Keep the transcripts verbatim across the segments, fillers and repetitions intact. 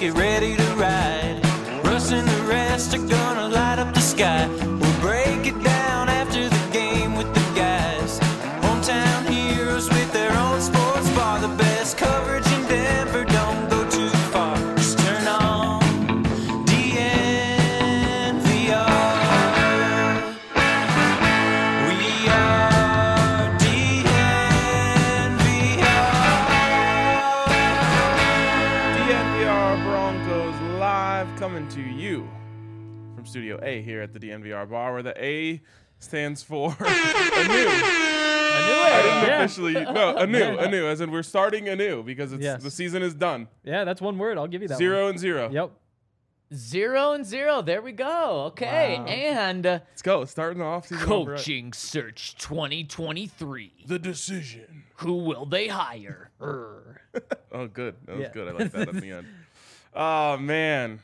get ready to ride. Russ and the rest are gonna light up the sky. We'll break it down after the game with the guys. Hometown heroes with their own sports bar. The best coverage in Denver, don't go too far. Just turn on D N V R. We are D N V R. D N V R Broncos live, coming to you from Studio A here at the D N V R bar, where the A stands for anew. I didn't Yeah. officially no anew, anew, as in we're starting anew because it's Yes. the season is done. Yeah, that's one word. I'll give you that Zero one. and zero. Yep. Zero and zero. There we go. Okay. Wow. And uh, Let's go. Starting the off season. off right. coaching search twenty twenty-three. The decision. Who will they hire? Err. Oh, good. That was Yeah. good. I like that at the end. Oh man,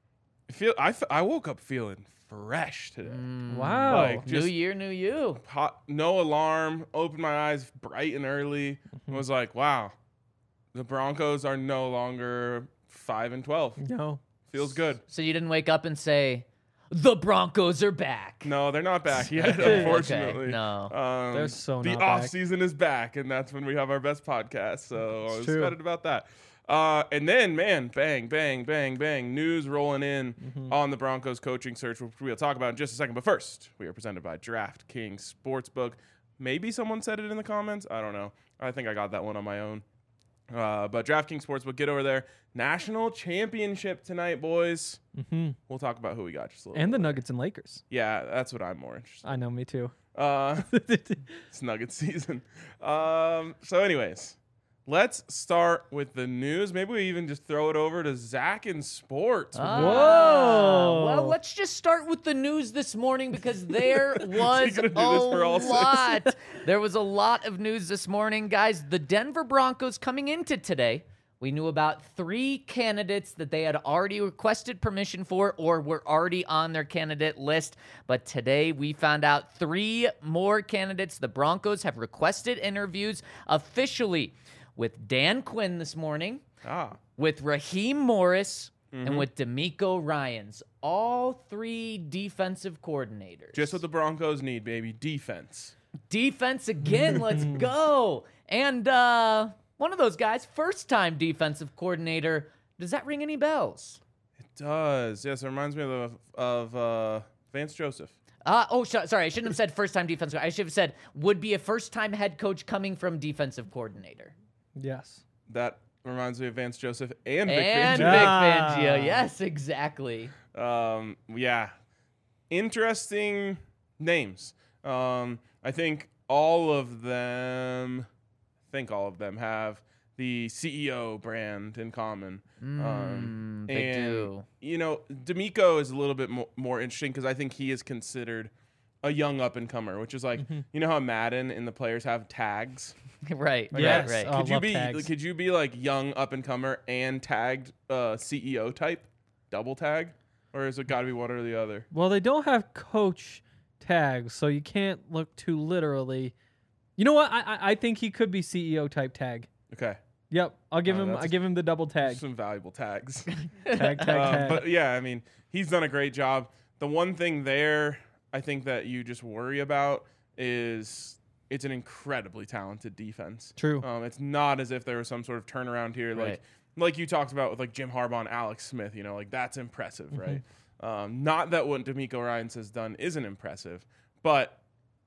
I feel I, f- I woke up feeling fresh today. Wow. Like, New just year, new you. hot, no alarm. Opened my eyes bright and early. And was like, wow, the Broncos are no longer five and twelve. no. Feels good. So you didn't wake up and say, the Broncos are back. No, they're not back yet, Okay, unfortunately. no. Um, They're so the not off back. season is back, and that's when we have our best podcast. So I was true. excited about that. Uh, and then, man, bang, bang, bang, bang, news rolling in Mm-hmm. on the Broncos coaching search, which we'll talk about in just a second. But first, we are presented by DraftKings Sportsbook. Maybe someone said it in the comments. I don't know. I think I got that one on my own. Uh, but DraftKings Sportsbook, get over there. National championship tonight, boys. Mm-hmm. We'll talk about who we got just a little And bit the later. Nuggets and Lakers. Yeah, that's what I'm more interested in. I know, me too. Uh, it's Nugget season. Um, so, anyways, let's start with the news. Maybe we even just throw it over to Zach in sports. Ah, Whoa. Well, let's just start with the news this morning because there was gonna a do this for all six? lot. There was a lot of news this morning, guys. The Denver Broncos coming into today. We knew about three candidates that they had already requested permission for or were already on their candidate list. But today we found out three more candidates. The Broncos have requested interviews officially with Dan Quinn this morning, Ah, with Raheem Morris, Mm-hmm. and with D'Amico Ryans. All three defensive coordinators. just what the Broncos need, baby. Defense. Defense again, let's go. And uh, one of those guys, first-time defensive coordinator. Does that ring any bells? It does. Yes, it reminds me of, of uh, Vance Joseph. Uh, oh, sh- sorry, I shouldn't have said first-time defensive. I should have said would be a first-time head coach coming from defensive coordinator. Yes. That reminds me of Vance Joseph and Vic And Fangio. Vic Ah. Fangio. Yes, exactly. Um, yeah, interesting names. Um, I think all of them, I think all of them have the C E O brand in common. um, Mm, they and do. you know, D'Amico is a little bit mo- more interesting because I think he is considered a young up and comer, which is like you know how Madden and the players have tags. Right, Yes. right, right. Oh, Could you love be tags. could you be like young up and comer and tagged uh, C E O type, double tag, or is it got to be one or the other? Well, they don't have coach tags, so you can't look too literally. You know what? I I, I think he could be C E O type tag. Okay, Yep, I'll give Oh, him. that's I give him the double tag. some valuable tags. Tag, tag, Uh, tag. but yeah, I mean, he's done a great job. The one thing there, I think that you just worry about is it's an incredibly talented defense. True. Um, it's not as if there was some sort of turnaround here, like Right. like you talked about with like Jim Harbaugh and Alex Smith. You know, like that's impressive, right? Um, not that what D'Amico Ryans has done isn't impressive, but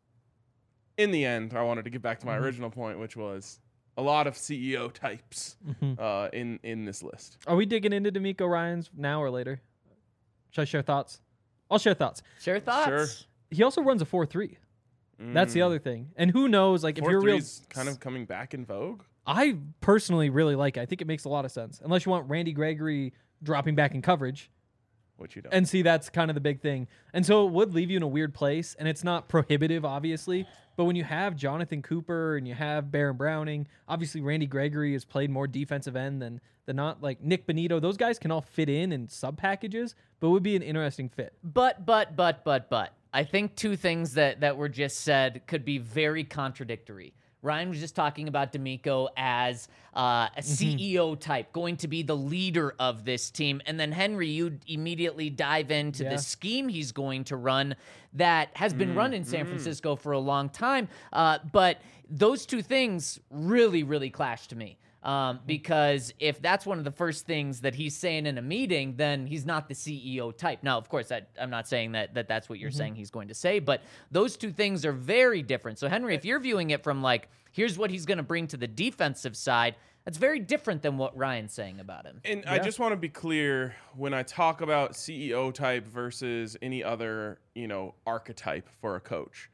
in the end, I wanted to get back to my original point, which was a lot of C E O types uh, in in this list. Are we digging into D'Amico Ryans now or later? Should I share thoughts? I'll share thoughts. Share thoughts. Sure. He also runs a four three. That's the other thing. And who knows, like, if you're a real... Four-three's kind of coming back in vogue. I personally really like it. I think it makes a lot of sense. Unless you want Randy Gregory dropping back in coverage. Which you don't. And see, that's kind of the big thing. And so it would leave you in a weird place. And it's not prohibitive, obviously. But when you have Jonathan Cooper and you have Baron Browning, obviously Randy Gregory has played more defensive end than, than not. Like Nick Bonito, those guys can all fit in in sub packages, but it would be an interesting fit. But, but, but, but, but. I think two things that, that were just said could be very contradictory. Ryan was just talking about D'Amico as uh, a C E O type, going to be the leader of this team. And then, Henry, you immediately dive into Yeah. the scheme he's going to run that has been run in San Francisco for a long time. Uh, but those two things really, really clash to me. Um, because if that's one of the first things that he's saying in a meeting, then he's not the C E O type. Now, of course, I, I'm not saying that, that that's what you're saying he's going to say, but those two things are very different. So, Henry, if you're viewing it from like, here's what he's going to bring to the defensive side, that's very different than what Ryan's saying about him. And I Yeah. just want to be clear when I talk about C E O type versus any other, you know, archetype for a coach.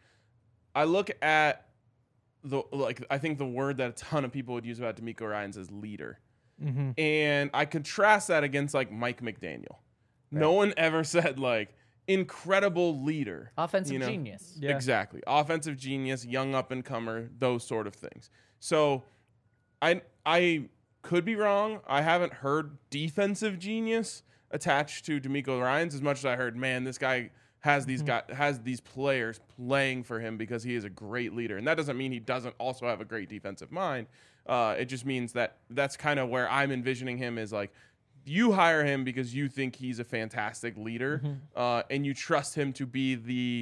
I look at the like I think the word that a ton of people would use about D'Amico Ryans is leader. Mm-hmm. And I contrast that against like Mike McDaniel. No one ever said like incredible leader. Offensive you know? genius. Yeah. Exactly. Offensive genius, young up and comer, those sort of things. So I I could be wrong. I haven't heard defensive genius attached to D'Amico Ryans as much as I heard, man, this guy has these guy has these players playing for him because he is a great leader. And that doesn't mean he doesn't also have a great defensive mind. Uh, it just means that that's kind of where I'm envisioning him is like, you hire him because you think he's a fantastic leader, uh, and you trust him to be the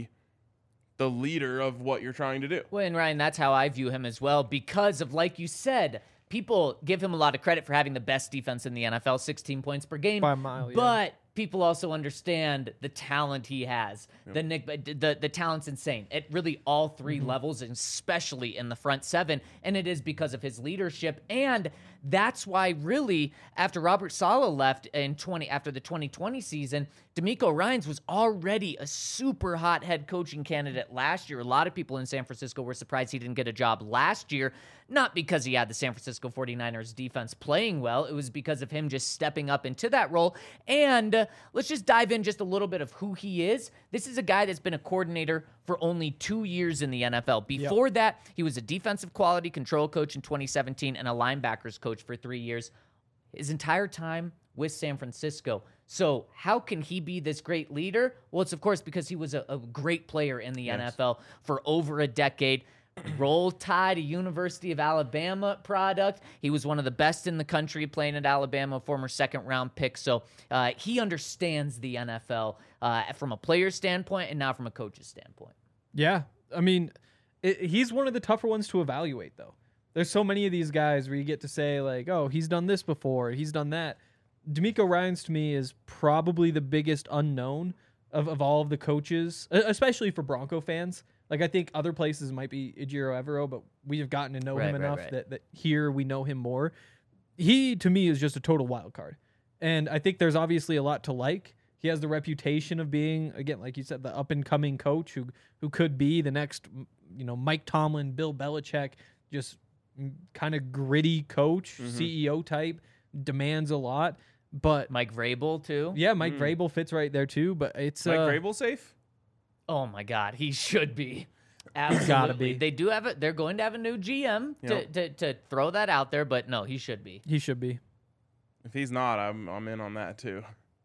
the leader of what you're trying to do. Well, and Ryan, that's how I view him as well because of, like you said, people give him a lot of credit for having the best defense in the N F L, sixteen points per game. By a mile, yeah. But people also understand the talent he has. The Nick, the the talent's insane at really all three levels, and especially in the front seven. And it is because of his leadership. And that's why, really, after Robert Saleh left in twenty after the twenty twenty season, D'Amico Ryans was already a super hot head coaching candidate last year. A lot of people in San Francisco were surprised he didn't get a job last year, not because he had the San Francisco forty-niners defense playing well. It was because of him just stepping up into that role. And uh, let's just dive in just a little bit of who he is. This is a guy that's been a coordinator for only two years in the N F L. Before that, he was a defensive quality control coach in twenty seventeen and a linebackers coach for three years. His entire time with San Francisco. So how can he be this great leader? Well, it's of course because he was a, a great player in the Yes. N F L for over a decade. Roll Tide, a University of Alabama product. He was one of the best in the country playing at Alabama, former second round pick. So uh, he understands the N F L uh, from a player standpoint and now from a coach's standpoint. Yeah. I mean, it, he's one of the tougher ones to evaluate, though. There's so many of these guys where you get to say, like, oh, he's done this before, he's done that. D'Amico Ryans, to me, is probably the biggest unknown of, of all of the coaches, e- especially for Bronco fans. Like, I think other places might be Ejiro Evero, but we have gotten to know Right, him right, enough right. That, that here we know him more. He, to me, is just a total wild card. And I think there's obviously a lot to like. He has the reputation of being, again, like you said, the up-and-coming coach who who could be the next, you know, Mike Tomlin, Bill Belichick, just kind of gritty coach, C E O type, demands a lot. But, Mike Vrabel, too. yeah, Mike Vrabel fits right there, too. But it's... Mike uh, Vrabel safe? Oh my God, he should be. Absolutely. Gotta be. They do have it. They're going to have a new G M to, Yep. to, to throw that out there, but no, he should be. He should be. If he's not, I'm I'm in on that too.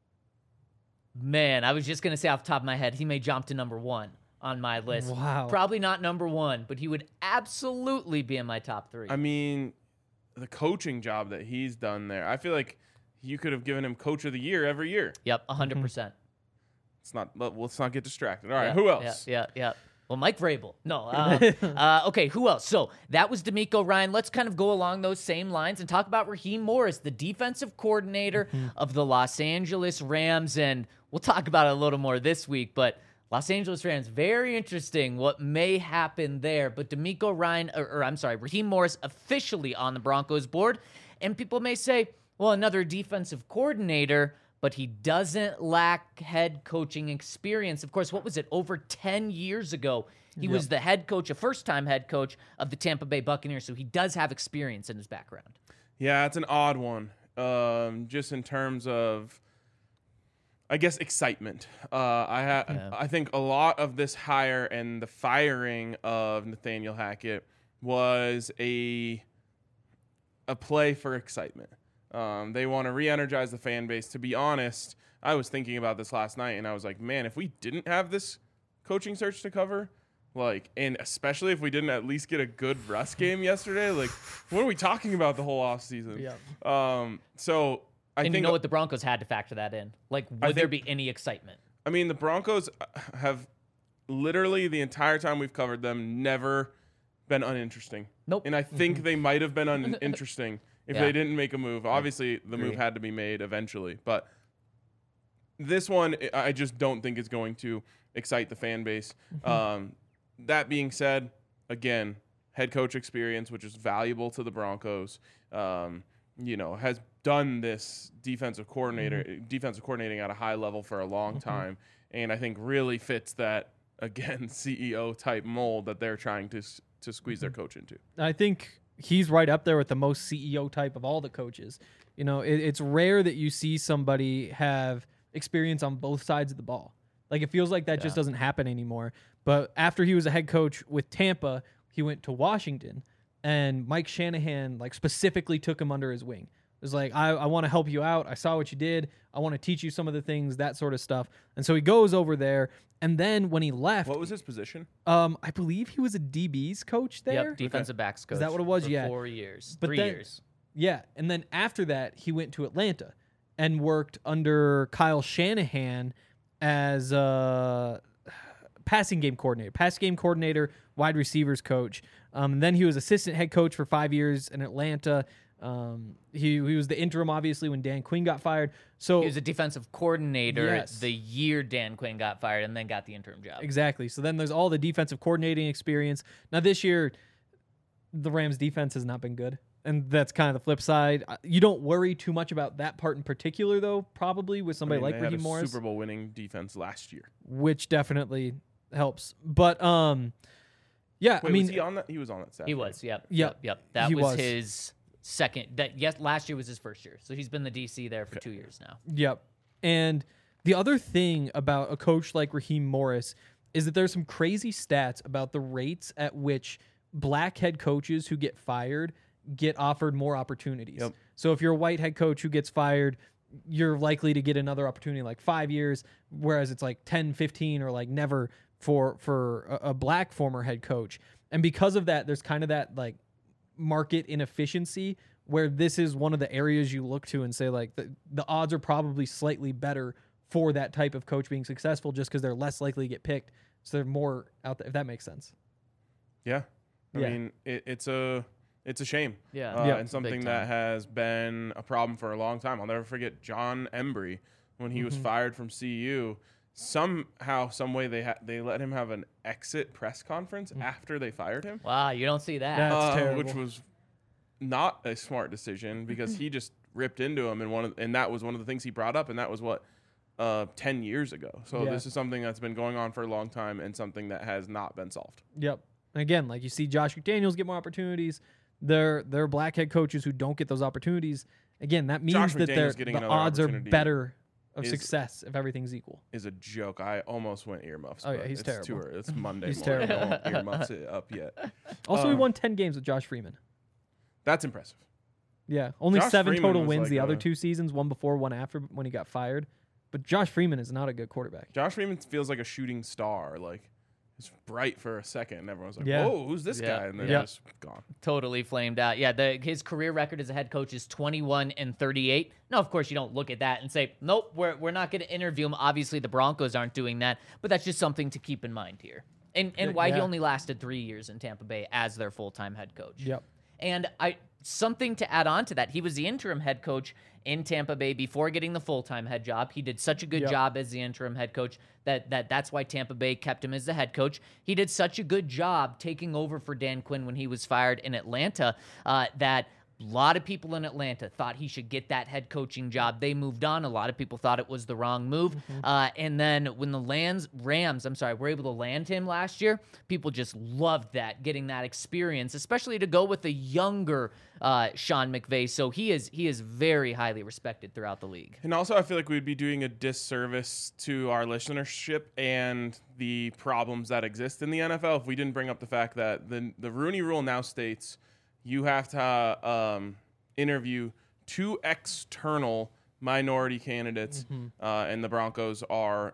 Man, I was just going to say off the top of my head, he may jump to number one on my list. Wow. Probably not number one, but he would absolutely be in my top three. I mean, the coaching job that he's done there, I feel like you could have given him coach of the year every year. Yep, one hundred percent. Let's not let, let's not get distracted. All right, Yeah, who else? Yeah, yeah, yeah. Well, Mike Vrabel. No. Uh, uh, okay, who else? So that was D'Amico Ryan. Let's kind of go along those same lines and talk about Raheem Morris, the defensive coordinator of the Los Angeles Rams. And we'll talk about it a little more this week, but Los Angeles Rams, very interesting what may happen there. But D'Amico Ryan, or, or I'm sorry, Raheem Morris officially on the Broncos board. And people may say, well, another defensive coordinator, but he doesn't lack head coaching experience. Of course, what was it? Over ten years ago, he was the head coach, a first-time head coach of the Tampa Bay Buccaneers, so he does have experience in his background. Yeah, it's an odd one. Um, just in terms of, I guess, excitement. Uh, I ha- Yeah. I think a lot of this hire and the firing of Nathaniel Hackett was a a play for excitement. Um, they want to re-energize the fan base. To be honest, I was thinking about this last night, and I was like, man, if we didn't have this coaching search to cover, Like, and especially if we didn't at least get a good Russ game yesterday, like, what are we talking about the whole offseason? Yeah. Um, so I and think you know what? The Broncos had to factor that in. Like, would I there think- be any excitement? I mean, the Broncos have literally the entire time we've covered them never been uninteresting. Nope. And I think they might have been uninteresting if Yeah. they didn't make a move. Obviously, the agree. move had to be made eventually, but this one I I just don't think is going to excite the fan base. Um, that being said, again, head coach experience, which is valuable to the Broncos. Um, you know, has done this defensive coordinator, defensive coordinating at a high level for a long time, and I think really fits that again C E O type mold that they're trying to s- to squeeze their coach into. I think he's right up there with the most C E O type of all the coaches. You know, it, it's rare that you see somebody have experience on both sides of the ball. Like, it feels like that just Yeah. doesn't happen anymore. But after he was a head coach with Tampa, he went to Washington, and Mike Shanahan like specifically took him under his wing. It was like, I, I want to help you out. I saw what you did. I want to teach you some of the things, that sort of stuff. And so he goes over there. And then when he left, What was his position? um, I believe he was a D B's coach there. Yep, defensive backs coach. that what it was? for Yeah. four years, But three then- years. Yeah, and then after that, he went to Atlanta and worked under Kyle Shanahan as a passing game coordinator, pass game coordinator, wide receivers coach. Um, and then he was assistant head coach for five years in Atlanta. Um, he he was the interim, obviously, when Dan Quinn got fired. So He was a defensive coordinator Yes. the year Dan Quinn got fired, and then got the interim job. exactly. So then there's all the defensive coordinating experience. Now this year, the Rams defense has not been good. And that's kind of the flip side. Uh, You don't worry too much about that part in particular, though, probably with I somebody mean, like they had Raheem a Morris, Super Bowl winning defense last year. which definitely helps. But, um, yeah, Wait, I mean, was he on that? He was on that staff. He right? was, yep, Yep. yep, yep. That He was, was. his second. That yes, last year was his first year, so he's been the D C there for two years now. yep. And the other thing about a coach like Raheem Morris is that there's some crazy stats about the rates at which black head coaches who get fired get offered more opportunities. Yep. So if you're a white head coach who gets fired, you're likely to get another opportunity like five years, whereas it's like ten, fifteen, or like never for for a, a black former head coach. And because of that, there's kind of that like market inefficiency where this is one of the areas you look to and say like the, the odds are probably slightly better for that type of coach being successful just because they're less likely to get picked. So they're more out there, if that makes sense. Yeah. I Yeah. mean, it, it's a it's a shame. Yeah. Uh, Yeah. and something Big that time. has been a problem for a long time. I'll never forget John Embry when he was fired from C U. Somehow, some way they ha- they let him have an exit press conference after they fired him, Wow, you don't see that. That's uh, terrible. which was not a smart decision because he just ripped into him, and one of, and that was one of the things he brought up, and that was what uh, ten years ago. So Yeah. this is something that's been going on for a long time, and something that has not been solved. Yep. And again, like you see Josh McDaniels get more opportunities. They're they're black head coaches who don't get those opportunities. Again, that means Josh that they're, McDaniels getting the another odds are opportunity better of is- success if everything's equal. Is a joke. I almost went earmuffs. Oh, yeah, but he's it's terrible. Too early. It's Monday He's morning. terrible. I won't earmuffs it up yet. Also, he Um, won ten games with Josh Freeman. That's impressive. Yeah, only Josh seven Freeman total was wins like the other a- two seasons, one before, one after when he got fired. But Josh Freeman is not a good quarterback. Josh Freeman feels like a shooting star. Like it's bright for a second, and everyone's like, Yeah. "Whoa, who's this Yeah. guy?" And then Yeah. just gone. Totally flamed out. Yeah, the, his career record as a head coach is twenty-one and thirty-eight. Now, of course, you don't look at that and say, nope, we're, we're not going to interview him. Obviously, the Broncos aren't doing that, but that's just something to keep in mind here. And and Yeah, why he yeah. only lasted three years in Tampa Bay as their full-time head coach. Yep. And I something to add on to that, he was the interim head coach in Tampa Bay before getting the full-time head job. He did such a good Yep. job as the interim head coach that, that that's why Tampa Bay kept him as the head coach. He did such a good job taking over for Dan Quinn when he was fired in Atlanta uh, that a lot of people in Atlanta thought he should get that head coaching job. They moved on. A lot of people thought it was the wrong move. Uh, and then when the lands, Rams, I'm sorry, were able to land him last year, people just loved that, getting that experience, especially to go with a younger uh, Sean McVay. So he is he is very highly respected throughout the league. And also, I feel like we'd be doing a disservice to our listenership and the problems that exist in the N F L if we didn't bring up the fact that the the Rooney Rule now states you have to um, interview two external minority candidates, uh, and the Broncos are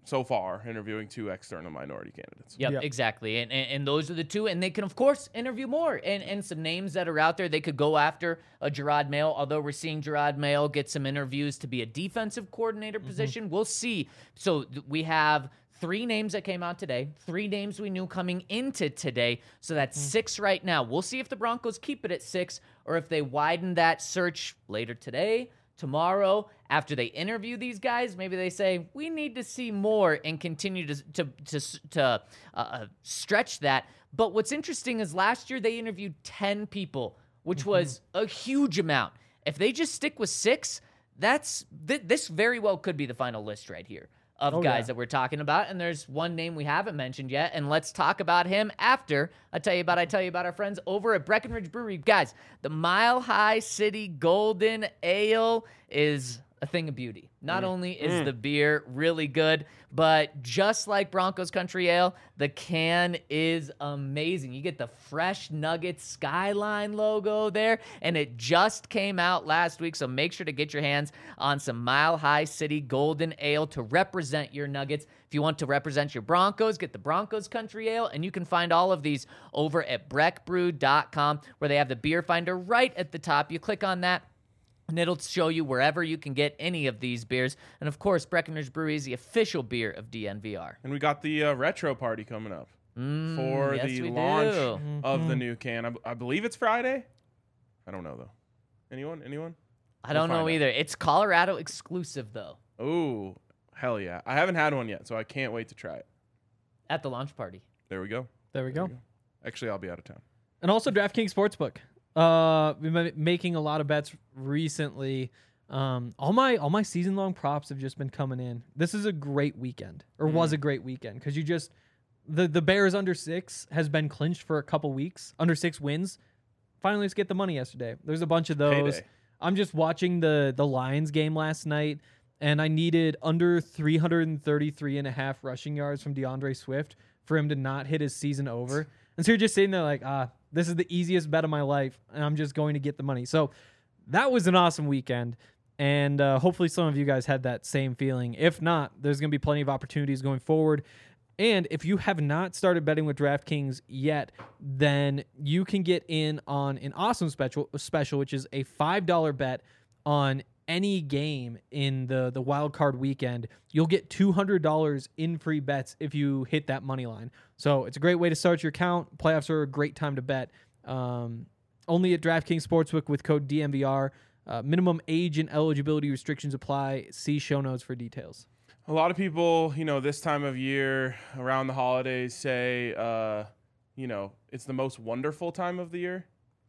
so far interviewing two external minority candidates. Yep, Yep. exactly. And, and and those are the two. And they can, of course, interview more. And and some names that are out there, they could go after a Gerard Mayo, although we're seeing Gerard Mayo get some interviews to be a defensive coordinator Mm-hmm. position. We'll see. So th- we have three names that came out today, three names we knew coming into today. So that's Mm-hmm. six right now. We'll see if the Broncos keep it at six or if they widen that search later today, tomorrow, after they interview these guys. Maybe they say, we need to see more and continue to to to, to uh, stretch that. But what's interesting is last year they interviewed ten people, which was a huge amount. If they just stick with six, that's th- this very well could be the final list right here of Oh, guys yeah. that we're talking about. And there's one name we haven't mentioned yet, and let's talk about him after I tell you about I tell you about our friends over at Breckenridge Brewery. Guys, the Mile High City Golden Ale is a thing of beauty. Not only is the beer really good, but just like Broncos Country Ale, the can is amazing. You get the Fresh Nuggets Skyline logo there, and it just came out last week, so make sure to get your hands on some Mile High City Golden Ale to represent your Nuggets. If you want to represent your Broncos, get the Broncos Country Ale, and you can find all of these over at breck brew dot com, where they have the beer finder right at the top. You click on that, and it'll show you wherever you can get any of these beers. And of course, Breckenridge Brewery is the official beer of D N V R. And we got the uh, retro party coming up for yes, the we launch do. of the new can. I, b- I believe it's Friday. I don't know though. Anyone? Anyone? I don't We'll know find out. either. It's Colorado exclusive, though, Oh, hell yeah! I haven't had one yet, so I can't wait to try it. at the launch party. There we go. There we go. Actually, I'll be out of town. And also DraftKings Sportsbook. Uh, we've been making a lot of bets recently. Um, all my all my season long props have just been coming in. This is a great weekend, or was a great weekend, because you just the the Bears under six has been clinched for a couple weeks. Under six wins. Finally, let's get the money yesterday. There's a bunch of those. Payday. I'm just watching the the Lions game last night, and I needed under three thirty-three and a half rushing yards from DeAndre Swift for him to not hit his season over. And so you're just sitting there like, ah, this is the easiest bet of my life, and I'm just going to get the money. So that was an awesome weekend, and uh, hopefully some of you guys had that same feeling. If not, there's going to be plenty of opportunities going forward. And if you have not started betting with DraftKings yet, then you can get in on an awesome special, special which is a five dollar bet on any game in the, the wild card weekend. You'll get two hundred dollars in free bets if you hit that money line. So it's a great way to start your account. Playoffs are a great time to bet. Um, only at DraftKings Sportsbook with code D M V R. Uh, minimum age and eligibility restrictions apply. See show notes for details. A lot of people, you know, this time of year around the holidays say, uh, you know, it's the most wonderful time of the year.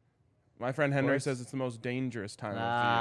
My friend Henry course. says it's the most dangerous time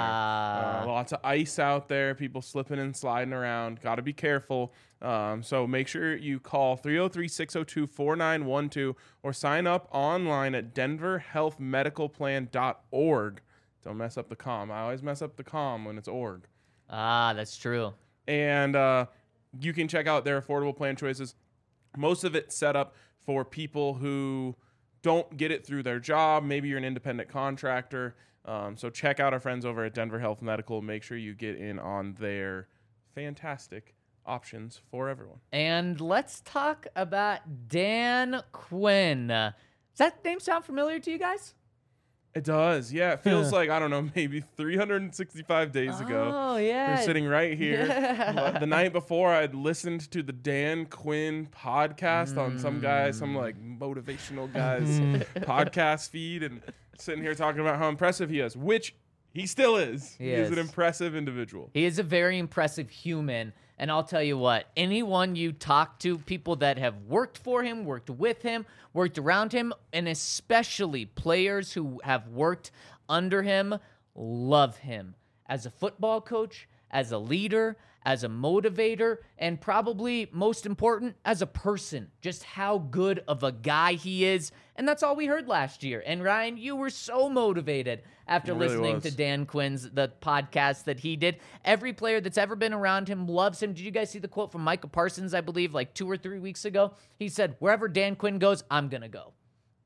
Ah. of the year. Uh, lots of ice out there, people slipping and sliding around. Got to be careful. Um, so make sure you call three oh three, six oh two, four nine one two or sign up online at denver health medical plan dot org. Don't mess up the com. I always mess up the com when it's org. Ah, that's true. And uh, you can check out their affordable plan choices. Most of it set up for people who don't get it through their job. Maybe you're an independent contractor. Um, so check out our friends over at Denver Health Medical. Make sure you get in on their fantastic options for everyone. And let's talk about Dan Quinn. Uh, Does that name sound familiar to you guys? It does. Yeah, it feels like, I don't know, maybe three hundred sixty-five days ago. Oh, yeah. We're sitting right here. Yeah. The night before, I'd listened to the Dan Quinn podcast on some guy, some like motivational guy's podcast feed, and sitting here talking about how impressive he is, which he still is. He He is is. an impressive individual. He is a very impressive human. And I'll tell you what, anyone you talk to, people that have worked for him, worked with him, worked around him, and especially players who have worked under him, love him as a football coach, as a leader, as a motivator, and probably most important, as a person. Just how good of a guy he is. And that's all we heard last year. And Ryan, you were so motivated after It really listening was. to Dan Quinn's the podcast that he did. Every player that's ever been around him loves him. Did you guys see the quote from Micah Parsons, I believe, like two or three weeks ago? He said, wherever Dan Quinn goes, I'm going to go.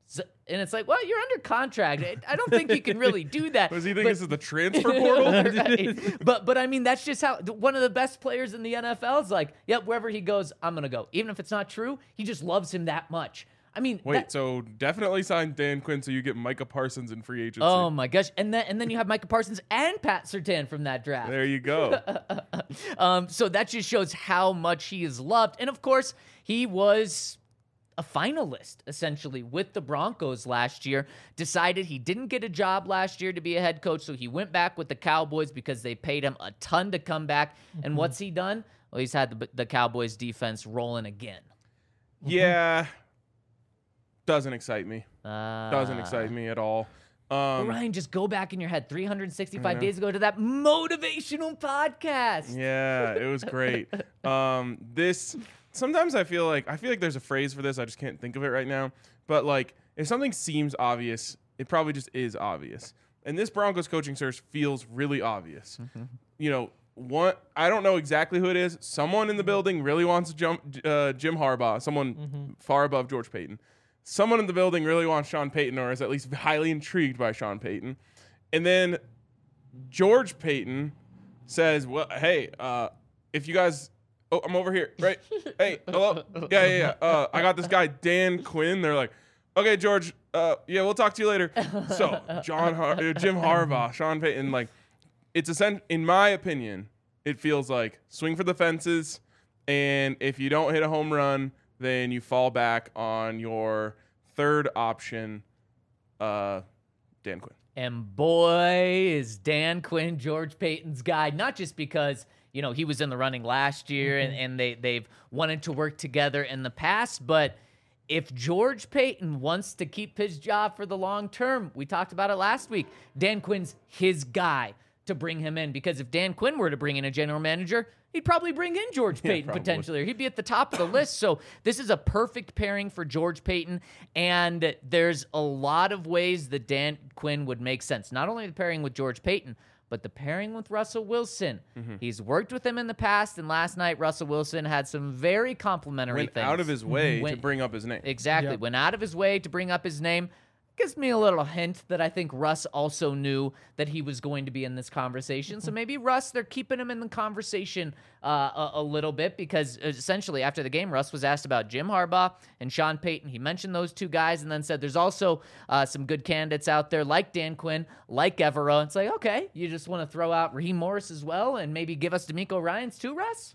So, and it's like, well, you're under contract. I- I don't think you can really do that. Does he think But- this is the transfer portal? Right. But but I mean, that's just how one of the best players in the N F L is like, yep, wherever he goes, I'm gonna go. Even if it's not true, he just loves him that much. I mean, Wait, that- so definitely sign Dan Quinn so you get Micah Parsons in free agency. oh my gosh, and then and then you have Micah Parsons and Pat Surtain from that draft. There you go. Um, so that just shows how much he is loved, and of course, he was a finalist essentially with the Broncos last year. Decided he didn't get a job last year to be a head coach, so he went back with the Cowboys because they paid him a ton to come back. And what's he done? Well, he's had the, the Cowboys defense rolling again. Yeah. Doesn't excite me. Uh, Doesn't excite me at all. Um, Ryan, just go back in your head three hundred sixty-five know. days ago to that motivational podcast. Yeah, it was great. um, this sometimes I feel like I feel like there's a phrase for this. I just can't think of it right now. But like, if something seems obvious, it probably just is obvious. And this Broncos coaching search feels really obvious. You know, one I don't know exactly who it is. Someone in the building really wants to jump uh, Jim Harbaugh. Someone far above George Payton. Someone in the building really wants Sean Payton, or is at least highly intrigued by Sean Payton. And then George Payton says, well, hey, uh, if you guys, oh, I'm over here, right? Hey, hello? Yeah, yeah, yeah. Uh, I got this guy, Dan Quinn. They're like, okay, George, uh, yeah, we'll talk to you later. So John, Har- uh, Jim Harbaugh, Sean Payton, like, it's a, in my opinion, it feels like swing for the fences. And if you don't hit a home run, then you fall back on your third option, uh, Dan Quinn. And boy, is Dan Quinn George Payton's guy, not just because, you know, he was in the running last year and, and they, they've wanted to work together in the past, but if George Payton wants to keep his job for the long term, we talked about it last week, Dan Quinn's his guy to bring him in, because if Dan Quinn were to bring in a general manager, he'd probably bring in George Payton probably. potentially, or he'd be at the top of the list. So this is a perfect pairing for George Payton, and there's a lot of ways that Dan Quinn would make sense. Not only the pairing with George Payton, but the pairing with Russell Wilson. Mm-hmm. He's worked with him in the past, and last night Russell Wilson had some very complimentary Went things. out of his way to Went- bring up his name. Exactly. Yep. Went out of his way to bring up his name. Gives me a little hint that I think Russ also knew that he was going to be in this conversation. So maybe Russ, they're keeping him in the conversation uh, a, a little bit, because essentially after the game, Russ was asked about Jim Harbaugh and Sean Payton. He mentioned those two guys and then said there's also uh, some good candidates out there like Dan Quinn, like Evero. It's like, okay, you just want to throw out Raheem Morris as well and maybe give us D'Amico Ryans too, Russ?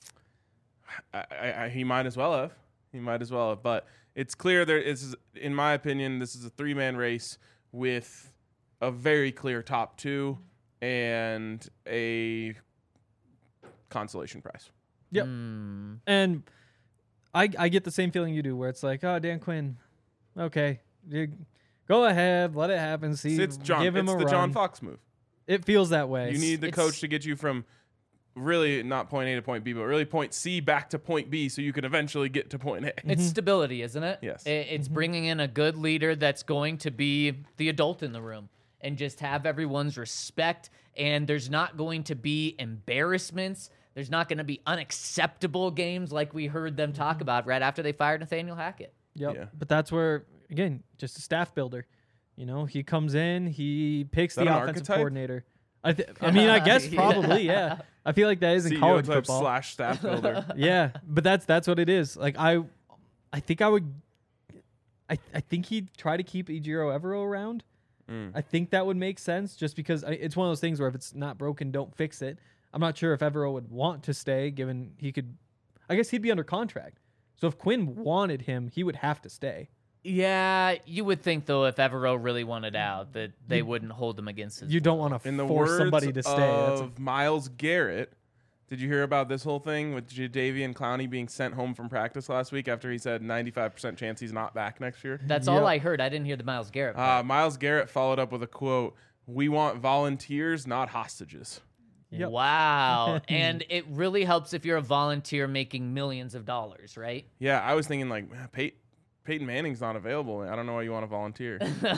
I, I, I, he might as well have. He might as well have. But it's clear there is, in my opinion, this is a three-man race with a very clear top two and a consolation prize. Yep. Hmm. And I I get the same feeling you do, where it's like, oh, Dan Quinn, okay, you, go ahead, let it happen. See, It's John. give him it's a the run. John Fox move. It feels that way. You need the it's- coach to get you from really not point A to point B, but really point C back to point B, so you can eventually get to point A. It's stability, isn't it? Yes. I- It's bringing in a good leader that's going to be the adult in the room and just have everyone's respect. And there's not going to be embarrassments. There's not going to be unacceptable games like we heard them talk about right after they fired Nathaniel Hackett. Yep. Yeah. But that's where, again, just a staff builder. You know, he comes in, he picks that the an offensive archetype? coordinator. I, th- I mean, I guess Yeah. probably, yeah. I feel like that is in C E O college type football. slash staff builder. Yeah, but that's that's what it is. Like I, I think I would, I I think he'd try to keep Ejiro Evero around. Mm. I think that would make sense, just because I, it's one of those things where if it's not broken, don't fix it. I'm not sure if Evero would want to stay, given he could. I guess he'd be under contract. So if Quinn wanted him, he would have to stay. Yeah, you would think, though, if Evero really wanted out, that they wouldn't hold him against his You don't want to In the force words somebody to stay. That's a- of Myles Garrett, did you hear about this whole thing with Jadeveon Clowney being sent home from practice last week after he said ninety-five percent chance he's not back next year? That's Yep. all I heard. I didn't hear the Myles Garrett Uh, part. Myles Garrett followed up with a quote, "We want volunteers, not hostages." Yep. Wow. And it really helps if you're a volunteer making millions of dollars, right? Yeah, I was thinking like, man, Pey- Peyton Manning's not available. I don't know why you want to volunteer.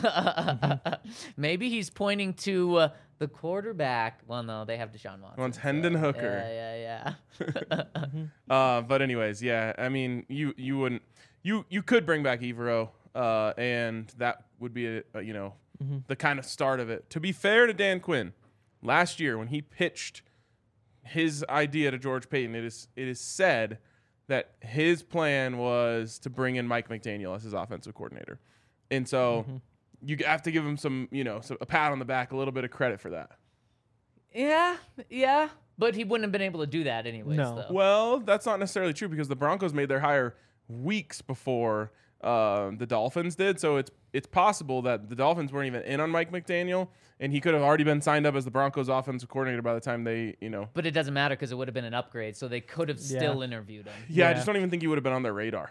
Maybe he's pointing to uh, the quarterback. Well, no, they have Deshaun Watson. Wants Hendon Hooker. Yeah, yeah, yeah. Uh, but anyways, yeah, I mean, you you wouldn't you you could bring back Evero. uh, and that would be a, a, you know Mm-hmm. the kind of start of it. To be fair to Dan Quinn, last year when he pitched his idea to George Payton, it is it is said that his plan was to bring in Mike McDaniel as his offensive coordinator, and so Mm-hmm. you have to give him some you know some, a pat on the back, a little bit of credit for that. Yeah, yeah. But he wouldn't have been able to do that anyways, No. though. Well, that's not necessarily true because the Broncos made their hire weeks before um, the Dolphins did. So it's it's possible that the Dolphins weren't even in on Mike McDaniel, and he could have already been signed up as the Broncos offensive coordinator by the time they, you know. But it doesn't matter because it would have been an upgrade, so they could have Yeah. still interviewed him. Yeah, I Yeah. just don't even think he would have been on their radar.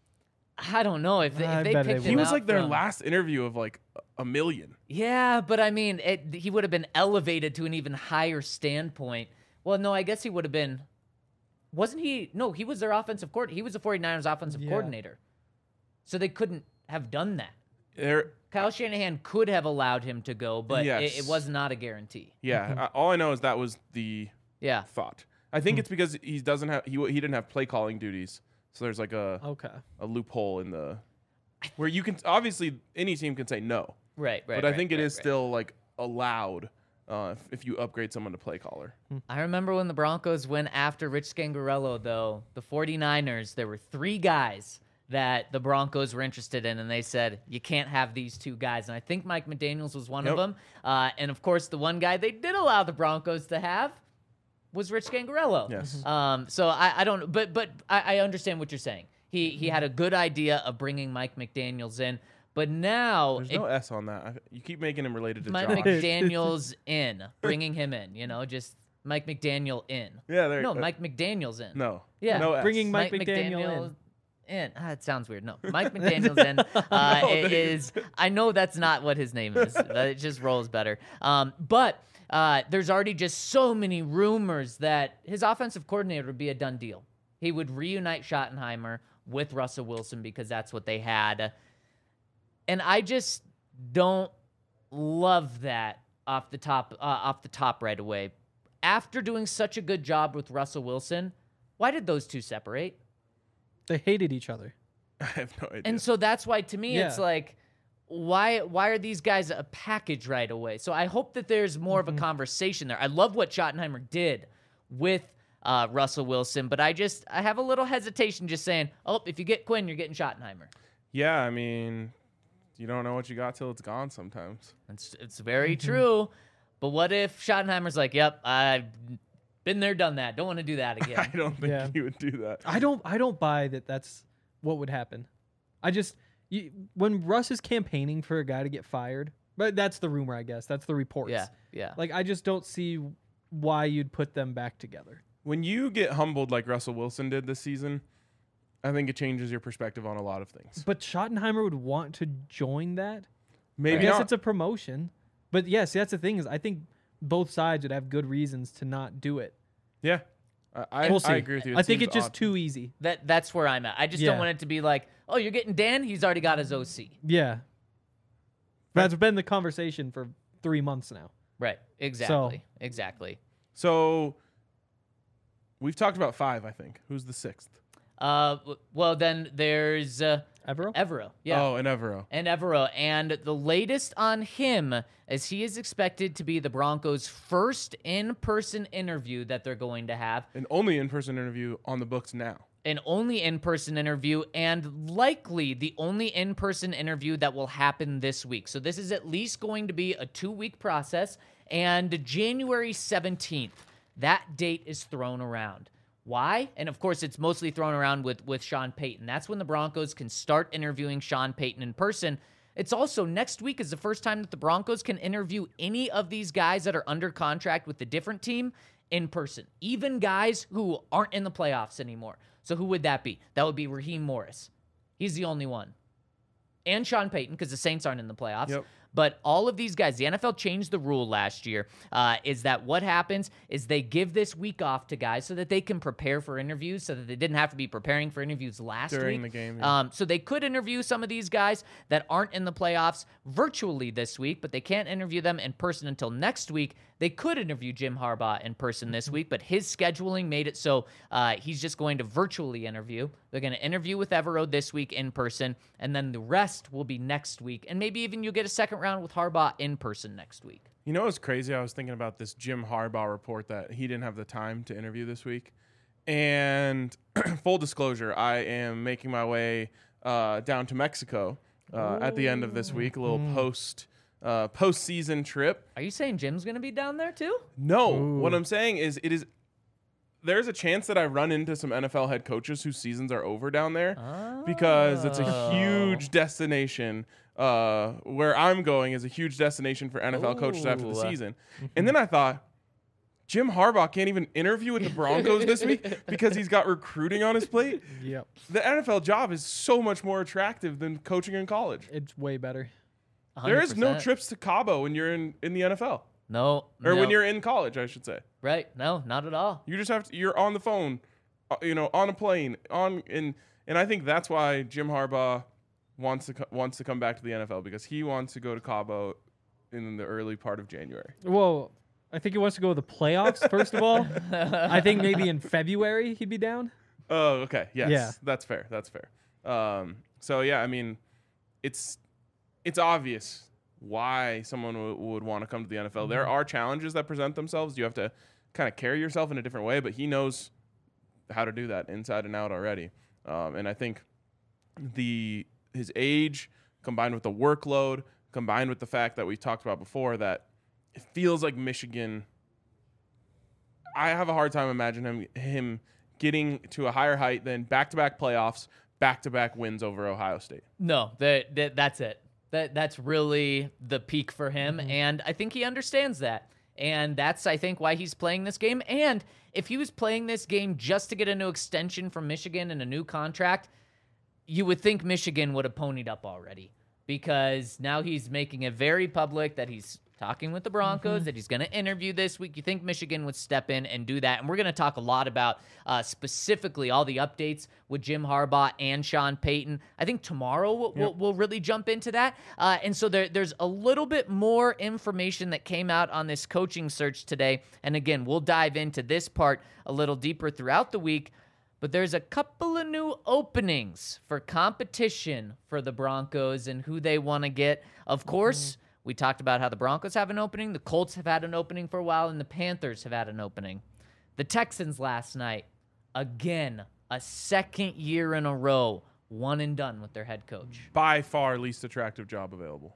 I don't know if they, I if they bet they picked would. He him was out like their from- last interview of like a million. Yeah, but I mean, it, he would have been elevated to an even higher standpoint. Well, no, I guess he would have been. Wasn't he? No, he was their offensive coordinator. He was the 49ers offensive Yeah. coordinator. So they couldn't have done that. There, Kyle Shanahan could have allowed him to go, but Yes. it, it was not a guarantee. yeah. I, all I know is that was the Yeah. thought. I think it's because he doesn't have he he didn't have play calling duties, so there's like a Okay. a loophole in the where you can obviously any team can say no, Right, right. but I right, think it right, is right. still like allowed uh, if, if you upgrade someone to play caller. I remember when the Broncos went after Rich Scangarello, though, the 49ers, there were three guys that the Broncos were interested in, and they said, you can't have these two guys. And I think Mike McDaniels was one Yep. of them. Uh, and, of course, the one guy they did allow the Broncos to have was Rich Scangarello. Yes. Um, so I, I don't, but but I, I understand what you're saying. He he had a good idea of bringing Mike McDaniels in, but now There's it, no S on that. I, you keep making him related to Mike Josh. McDaniels in, bringing him in. You know, just Mike McDaniel in. Yeah, there. No, uh, Mike McDaniel's in. No. Yeah. No S. Bringing Mike McDaniel in. in. Ah, it sounds weird. No, Mike McDaniel's in. Uh, No, it they- is. I know that's not what his name is. but it just rolls better. Um, but uh, there's already just so many rumors that his offensive coordinator would be a done deal. He would reunite Schottenheimer with Russell Wilson because that's what they had. And I just don't love that off the top. Uh, off the top right away. After doing such a good job with Russell Wilson, why did those two separate? They hated each other. I have no idea. And so that's why, to me, it's Yeah. like, why why are these guys a package right away? So I hope that there's more Mm-hmm. of a conversation there. I love what Schottenheimer did with uh, Russell Wilson, but I just I have a little hesitation just saying, oh, if you get Quinn, you're getting Schottenheimer. yeah, I mean, you don't know what you got till it's gone sometimes. It's it's very Mm-hmm. true. But what if Schottenheimer's like, yep, I've been there, done that. Don't want to do that I again. don't think Yeah. he would do that. I don't. I don't buy that. That's what would happen. I just you, when Russ is campaigning for a guy to get fired, but that's the rumor, I guess. That's the reports. yeah, yeah. Like I just don't see why you'd put them back together. When you get humbled like Russell Wilson did this season, I think it changes your perspective on a lot of things. But Schottenheimer would want to join that. Maybe I guess not. it's a promotion. But yes, that's the thing is I think both sides would have good reasons to not do it. yeah, I, I, We'll see. I agree with you. It I think seems it's just odd. too easy. That that's where I'm at. I just Yeah. don't want it to be like, oh, you're getting Dan. He's already got his O C. Yeah. That's been the conversation for three months now. Right. Exactly. Exactly. So we've talked about five. I think. Who's the sixth? Uh, w- well, then there's uh, Evero? Evero. Yeah. Oh, and Evero. And Evero. And the latest on him is he is expected to be the Broncos' first in-person interview that they're going to have. An only in-person interview on the books now. An only in-person interview and likely the only in-person interview that will happen this week. So this is at least going to be a two-week process. And January seventeenth, that date is thrown around. Why? And of course, it's mostly thrown around with, with Sean Payton. That's when the Broncos can start interviewing Sean Payton in person. It's also next week is the first time that the Broncos can interview any of these guys that are under contract with a different team in person, even guys who aren't in the playoffs anymore. So who would that be? That would be Raheem Morris. He's the only one. And Sean Payton, because the Saints aren't in the playoffs. Yep. But all of these guys, the N F L changed the rule last year, uh, is that what happens is they give this week off to guys so that they can prepare for interviews, so that they didn't have to be preparing for interviews last During week. the game, yeah. Um, so they could interview some of these guys that aren't in the playoffs virtually this week, but they can't interview them in person until next week. They could interview Jim Harbaugh in person this week, but his scheduling made it so uh, he's just going to virtually interview. They're going to interview with Evero this week in person, and then the rest will be next week. And maybe even you'll get a second round with Harbaugh in person next week. You know what's crazy? I was thinking about this Jim Harbaugh report that he didn't have the time to interview this week. And full disclosure, I am making my way uh, down to Mexico uh, at the end of this week, a little post uh, postseason trip. Are you saying Jim's going to be down there too? No, Ooh. what I'm saying is it is there's a chance that I run into some N F L head coaches whose seasons are over down there because it's a Oh. huge destination. Uh, where I'm going is a huge destination for N F L coaches after the Ooh. season. And then I thought, Jim Harbaugh can't even interview with the Broncos this week because he's got recruiting on his plate. Yep. The N F L job is so much more attractive than coaching in college. It's way better. There is no one hundred percent. trips to Cabo when you're in, in the N F L. No. Or no. when you're in college, I should say. Right. No, not at all. You just have to. You're on the phone, uh, you know, on a plane, on and and I think that's why Jim Harbaugh wants to co- wants to come back to the N F L because he wants to go to Cabo in the early part of January. Well, I think he wants to go to the playoffs, first of all. I think maybe in February he'd be down. Oh, okay, yes, Yeah. that's fair. That's fair. Um, so yeah, I mean, it's it's obvious why someone w- would want to come to the N F L. There are challenges that present themselves. You have to kind of carry yourself in a different way, but he knows how to do that inside and out already. Um, and I think the his age combined with the workload, combined with the fact that we talked about before that it feels like Michigan. I have a hard time imagining him him getting to a higher height than back-to-back playoffs, back-to-back wins over Ohio State. No, that, that that's it. That that's really the peak for him, Mm-hmm. and I think he understands that. And that's, I think, why he's playing this game. And if he was playing this game just to get a new extension from Michigan and a new contract, you would think Michigan would have ponied up already, because now he's making it very public that he's talking with the Broncos, that he's going to interview this week. You think Michigan would step in and do that. And we're going to talk a lot about uh, specifically all the updates with Jim Harbaugh and Sean Payton. I think tomorrow we'll, we'll, we'll really jump into that. Uh, and so there, there's a little bit more information that came out on this coaching search today. And again, we'll dive into this part a little deeper throughout the week. But there's a couple of new openings for competition for the Broncos and who they want to get. Of course, mm-hmm. we talked about how the Broncos have an opening, the Colts have had an opening for a while, and the Panthers have had an opening. The Texans last night, again, a second year in a row, one and done with their head coach. By far least attractive job available.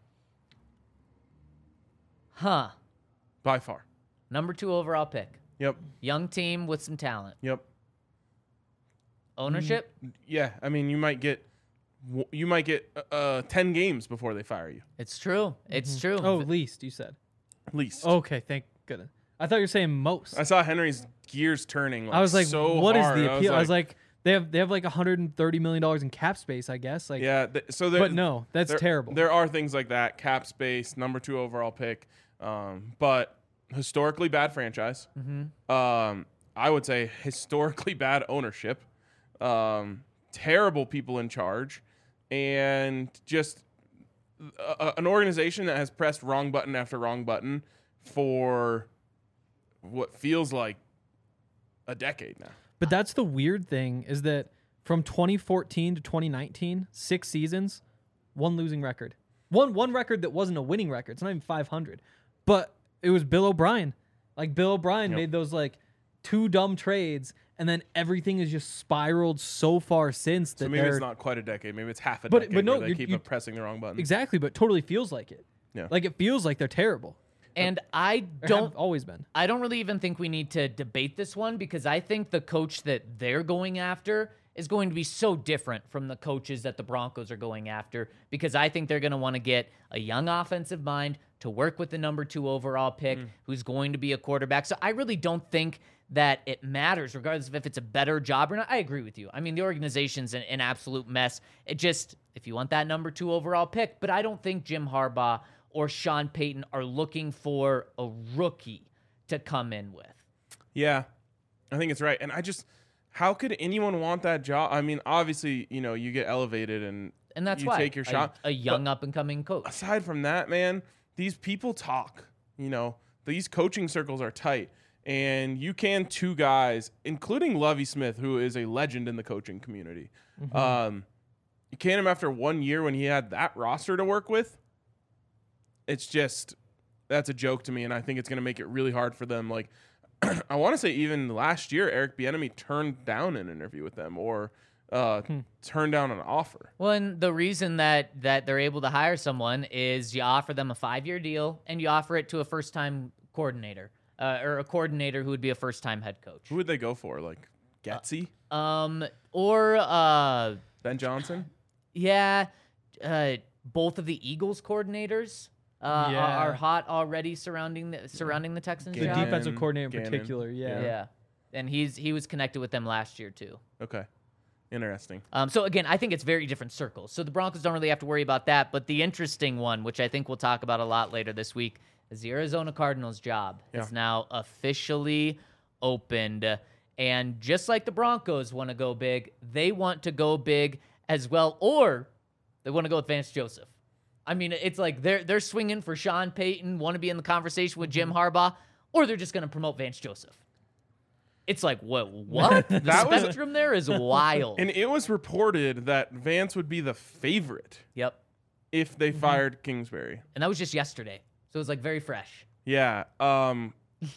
Huh. By far. Number two overall pick. Yep. Young team with some talent. Yep. Ownership? Yeah, I mean, you might get you might get uh, ten games before they fire you. It's true. It's true. Oh, least, you said. Least. Okay, thank goodness. I thought you were saying most. I saw Henry's gears turning. Like, I was like, so what is hard. the I appeal? was I was like, they have they have like one hundred thirty million dollars in cap space, I guess. Like, yeah. Th- so there, but no, that's there, terrible. There are things like that. Cap space, number two overall pick, um, but historically bad franchise. Mm-hmm. Um, I would say historically bad ownership. Um, terrible people in charge, and just a, a, an organization that has pressed wrong button after wrong button for what feels like a decade now. But that's the weird thing is that from twenty fourteen to twenty nineteen, six seasons, one losing record. One one record that wasn't a winning record. It's not even five hundred. But it was Bill O'Brien. Like Bill O'Brien Yep. made those like two dumb trades, and then everything has just spiraled so far since that So maybe they're it's not quite a decade. Maybe it's half a But- decade but no, where they you- keep you- pressing the wrong button. exactly, but totally feels like it. Yeah. Like it feels like they're terrible. And I Or don't have always been. I don't really even think we need to debate this one, because I think the coach that they're going after is going to be so different from the coaches that the Broncos are going after, because I think they're going to want to get a young offensive mind to work with the number two overall pick who's going to be a quarterback. So I really don't think that it matters, regardless of if it's a better job or not. I agree with you. I mean, the organization's an, an absolute mess. It just, if you want that number two overall pick, but I don't think Jim Harbaugh or Sean Payton are looking for a rookie to come in with. Yeah, I think it's right. And I just, how could anyone want that job? I mean, obviously, you know, you get elevated and And that's you why take your a, shot. a young But up-and-coming coach. aside from that, man, these people talk. You know, these coaching circles are tight. And you can two guys, including Lovie Smith, who is a legend in the coaching community. Mm-hmm. Um, you can him after one year when he had that roster to work with. It's just, that's a joke to me, and I think it's going to make it really hard for them. Like, I want to say even last year, Eric Bieniemy turned down an interview with them or uh, Hmm. turned down an offer. Well, and the reason that that they're able to hire someone is you offer them a five-year deal and you offer it to a first-time coordinator uh, or a coordinator who would be a first-time head coach. Who would they go for? Like, Getsy? Um, or uh, Ben Johnson? yeah, uh, both of the Eagles coordinators uh, Yeah. are, are hot already surrounding the surrounding the Texans. The Gannon. job. defensive coordinator in Gannon. particular, yeah. Yeah, and he's he was connected with them last year too. Okay. Interesting. Um, so again, I think it's very different circles. So the Broncos don't really have to worry about that. But the interesting one, which I think we'll talk about a lot later this week, is the Arizona Cardinals' job Yeah. is now officially opened. And just like the Broncos want to go big, they want to go big as well, or they want to go with Vance Joseph. I mean, it's like they're they're swinging for Sean Payton, want to be in the conversation with Jim Harbaugh, or they're just going to promote Vance Joseph. It's like, what? What? The That was- spectrum there is wild. And it was reported that Vance would be the favorite Yep. if they fired Kingsbury. And that was just yesterday. So it was like very fresh. Yeah. Um,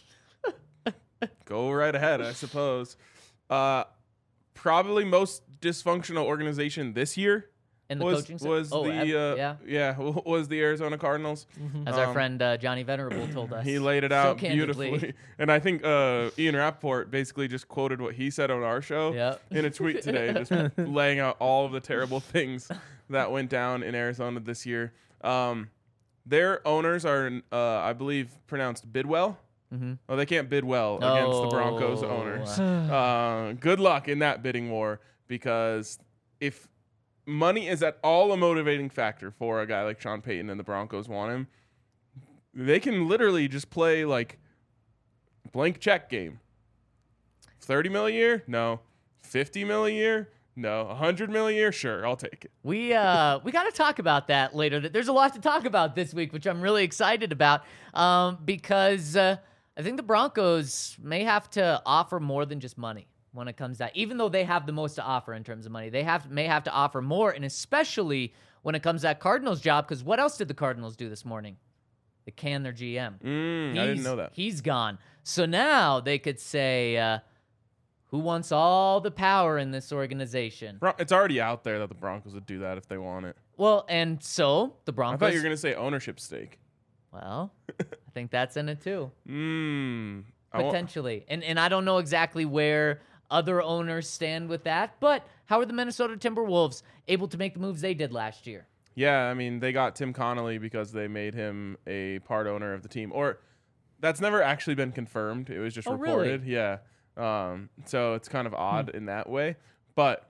go right ahead, I suppose. Uh, probably most dysfunctional organization this year And the was coaching staff- was oh, the ev- uh, yeah. yeah was the Arizona Cardinals. As our Um, friend uh, Johnny Venerable told us. He laid it so out candidly. beautifully, and I think uh, Ian Rappaport basically just quoted what he said on our show Yep. in a tweet today, just laying out all of the terrible things that went down in Arizona this year. Um, their owners are, uh, I believe, pronounced Bidwell. Mm-hmm. Oh, they can't bid well against the Broncos Oh. owners. Uh, good luck in that bidding war, because if money is at all a motivating factor for a guy like Sean Payton and the Broncos want him, they can literally just play like blank check game. thirty mil a year? No. fifty mil a year? No. one hundred mil a year? Sure, I'll take it. We uh we got to talk about that later. There's a lot to talk about this week, which I'm really excited about, um, because uh, I think the Broncos may have to offer more than just money when it comes to that. Even though they have the most to offer in terms of money, they have may have to offer more, and especially when it comes to that Cardinals job. Because what else did the Cardinals do this morning? They canned their G M. Mm, I didn't He's- know that. He's gone. So now they could say, uh, who wants all the power in this organization? Bron- It's already out there that the Broncos would do that if they want it. Well, and so the I Broncos. thought you were going to say ownership stake. Well, I think that's in it too, Mm. I wa- potentially. And and I don't know exactly where other owners stand with that, but how are the Minnesota Timberwolves able to make the moves they did last year? Yeah, I mean, they got Tim Connolly because they made him a part owner of the team. Or that's never actually been confirmed. It was just Oh, really? reported. Yeah. Um, so it's kind of odd in that way. But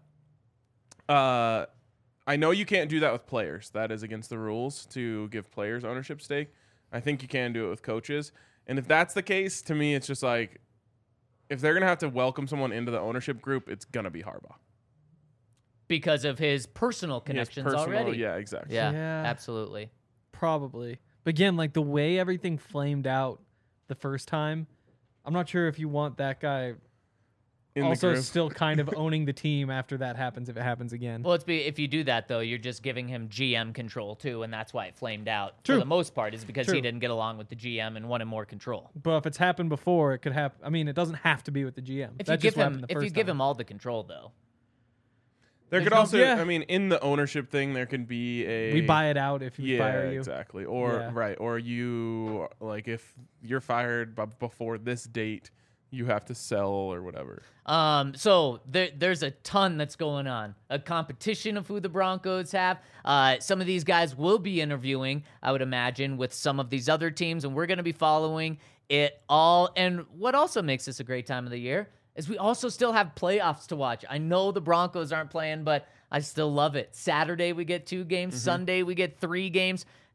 uh, I know you can't do that with players. That is against the rules to give players ownership stake. I think you can do it with coaches. And if that's the case, to me, it's just like, if they're going to have to welcome someone into the ownership group, it's going to be Harbaugh. Because of his personal He has connections personal- already. Yeah, exactly. Yeah, Yeah. absolutely. Probably. But again, like the way everything flamed out the first time, I'm not sure if you want that guy In the also group. still kind of owning the team after that happens, if it happens again. Well, it's be if you do that though, you're just giving him G M control too, and that's why it flamed out True. for the most part. Is because he True. didn't get along with the G M and wanted more control. But if it's happened before, it could happen. I mean, it doesn't have to be with the G M. If That's you just give what him, happened the if you first give time. him all the control though, There There's could no- also, yeah. I mean, in the ownership thing, there can be a we buy it out if you yeah, fire you. exactly. Or Yeah. right, or you like if you're fired b- before this date, you have to sell or whatever. Um, so there, there's a ton that's going on. A competition of who the Broncos have. Uh, some of these guys will be interviewing, I would imagine, with some of these other teams, and we're going to be following it all. And what also makes this a great time of the year is we also still have playoffs to watch. I know the Broncos aren't playing, but I still love it. Saturday we get two games. Sunday we get three games.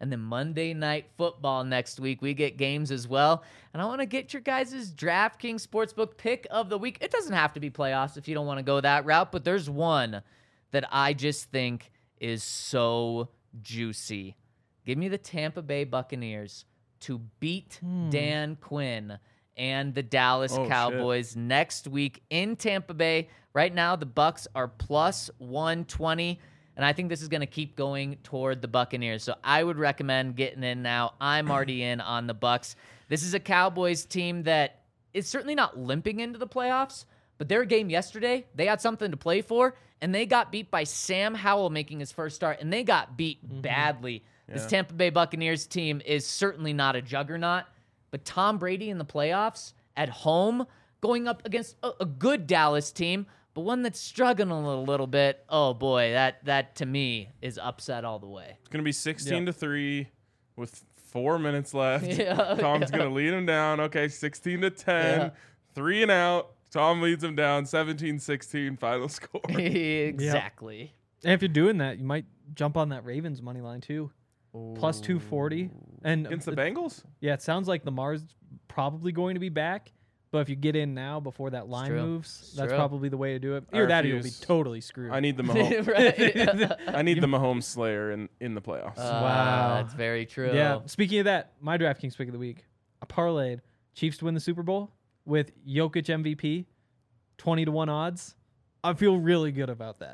And then Monday Night Football next week. We get games as well. And I want to get your guys' DraftKings Sportsbook pick of the week. It doesn't have to be playoffs if you don't want to go that route, but there's one that I just think is so juicy. Give me the Tampa Bay Buccaneers to beat Dan Quinn and the Dallas Oh, Cowboys shit. next week in Tampa Bay. Right now, the Bucs are plus one twenty, and I think this is going to keep going toward the Buccaneers. So I would recommend getting in now. I'm already in on the Bucs. This is a Cowboys team that is certainly not limping into the playoffs, but their game yesterday, they had something to play for, and they got beat by Sam Howell making his first start, and they got beat Mm-hmm. badly. This Yeah. Tampa Bay Buccaneers team is certainly not a juggernaut, but Tom Brady in the playoffs at home going up against a, a good Dallas team, but one that's struggling a little bit. Oh boy, that that to me is upset all the way. It's gonna be sixteen Yep. to three with four minutes left. Yeah, Tom's yeah. gonna lead him down. Okay, sixteen to ten, Yeah. three and out. Tom leads him down. seventeen sixteen final score. Exactly. And if you're doing that, you might jump on that Ravens money line too. Plus two forty. And Against the it- Bengals? yeah, it sounds like Lamar's probably going to be back. But if you get in now before that line true. moves, It's that's true. probably the way to do it. I Either that or you'll be refuse. totally screwed. I need the Mahomes. Right. I need the Mahomes Slayer in, in the playoffs. Uh, Wow. That's very true. Yeah. Speaking of that, my DraftKings pick of the week, I parlayed Chiefs to win the Super Bowl with Jokic M V P, twenty to one odds. I feel really good about that.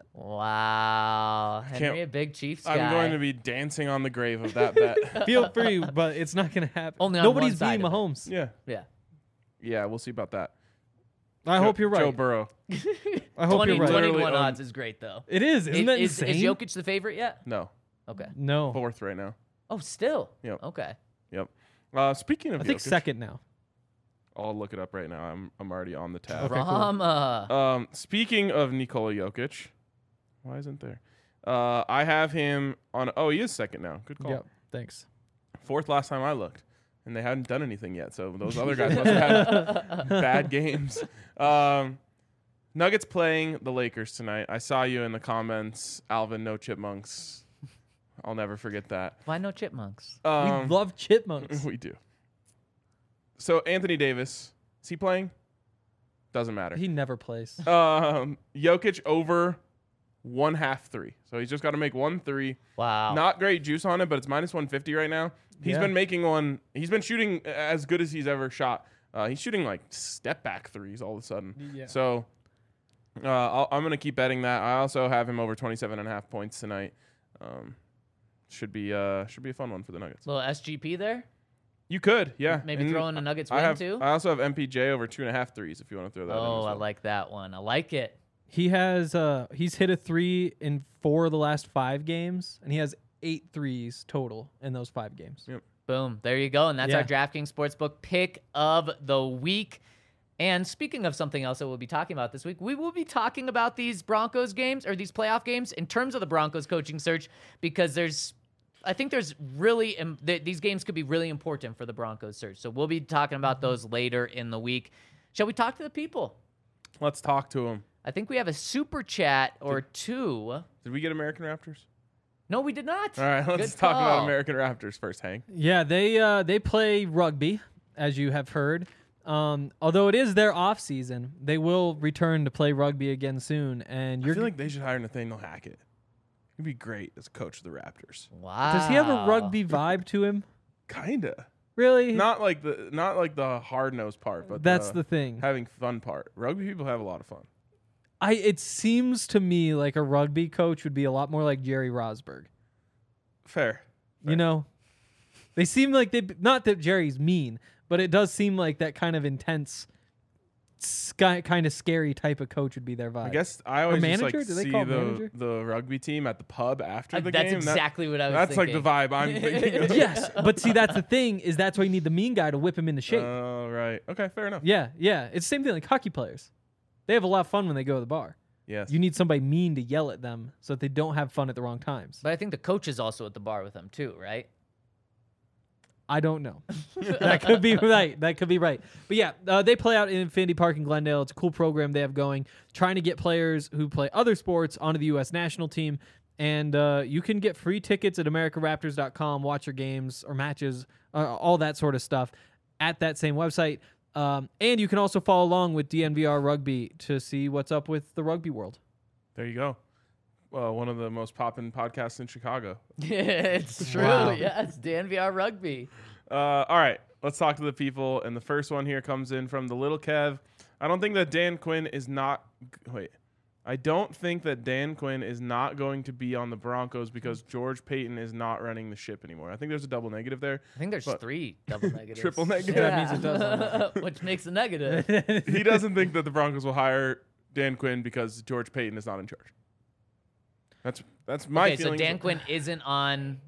Wow. Henry, a big Chiefs guy. I'm going to be dancing on the grave of that bet. Feel free, but it's not going to happen. Only on Nobody's one side beating of it. Mahomes. Yeah. Yeah. Yeah, we'll see about that. I Joe- hope you're right. Joe Burrow. I hope twenty, you're right. Literally twenty-one own- odds is great, though. It is. Isn't that is, insane? is Jokic the favorite yet? No. Okay. No. Fourth right now. Oh, still? Yep. Okay. Yep. Uh, speaking of I think Jokic, second now. I'll look it up right now. I'm I'm already on the tab. Okay, cool. Drama. Um, speaking of Nikola Jokic, why isn't there? Uh, I have him on. Oh, he is second now. Good call. Yep. Thanks. Fourth last time I looked, and they hadn't done anything yet. So those other guys must have had bad games. Um, Nuggets playing the Lakers tonight. I saw you in the comments, Alvin. No chipmunks. I'll never forget that. Why no chipmunks? Um, we love chipmunks. we do. So Anthony Davis, is he playing? Doesn't matter. He never plays. Um, Jokic over one half three. So he's just got to make one three. Wow. Not great juice on it, but it's minus one fifty right now. He's Yeah. been making one. He's been shooting as good as he's ever shot. Uh, he's shooting like step back threes all of a sudden. Yeah. So uh, I'll, I'm going to keep betting that. I also have him over twenty-seven and a half points tonight. Um, should be uh, should be a fun one for the Nuggets. Little S G P there? You could, yeah. Maybe And throw in a Nuggets I win, have, too? I also have M P J over two and a half threes if you want to throw that in. Oh, as I well. like that one. I like it. He has uh he's hit a three in four of the last five games, and he has eight threes total in those five games. Yep. Boom. There you go. And that's Yeah. our DraftKings Sportsbook pick of the week. And speaking of something else that we'll be talking about this week, we will be talking about these Broncos games or these playoff games in terms of the Broncos coaching search, because there's, I think there's really, um, th- these games could be really important for the Broncos search. So we'll be talking about those later in the week. Shall we talk to the people? Let's talk to him. I think we have a super chat or two. Did we get American Raptors? No, we did not. All right, let's Good talk about call. American Raptors first, Hank. Yeah, they uh they play rugby, as you have heard. Um, although it is their off season, they will return to play rugby again soon. And I you're feel like they should hire Nathaniel Hackett. He'd be great as a coach of the Raptors. Wow. does he have a rugby vibe to him? Kinda. Really? Not like the not like the hard nosed part, but That's the, the thing. having fun part. Rugby people have a lot of fun. I it seems to me like a rugby coach would be a lot more like Jerry Rosberg. Fair. You know, they seem like they not that Jerry's mean, but it does seem like that kind of intense, sky, kind of scary type of coach would be their vibe. I guess I always just manager? like Do they see call it the manager? the rugby team at the pub after Uh, the that's game. That- exactly what I was that's thinking. like the vibe I'm thinking of. Yes, but see, that's the thing is that's why you need the mean guy to whip him into shape. Oh, right. Okay, fair enough. yeah, yeah, it's the same thing like hockey players. They have a lot of fun when they go to the bar. Yes. You need somebody mean to yell at them so that they don't have fun at the wrong times. But I think the coach is also at the bar with them too, right? I don't know. That could be right. That could be right. But yeah, uh, they play out in Infinity Park in Glendale. It's a cool program they have going, trying to get players who play other sports onto the U S national team. and uh, you can get free tickets at america raptors dot com, watch your games or matches, uh, all that sort of stuff at that same website. Um, and you can also follow along with D N V R Rugby to see what's up with the rugby world. There you go. Well, one of the most poppin' podcasts in Chicago. It's true. Wow. Yes, D N V R Rugby. Uh, all right, let's talk to the people. And the first one here comes in from the little Kev. I don't think that Dan Quinn is not. Wait. I don't think that Dan Quinn is not going to be on the Broncos because George Payton is not running the ship anymore. I think there's a double negative there. I think there's But- three double negatives. Triple negative. Yeah, that means it does Which makes a negative. He doesn't think that the Broncos will hire Dan Quinn because George Payton is not in charge. That's that's my okay, so feeling. Dan Quinn isn't on.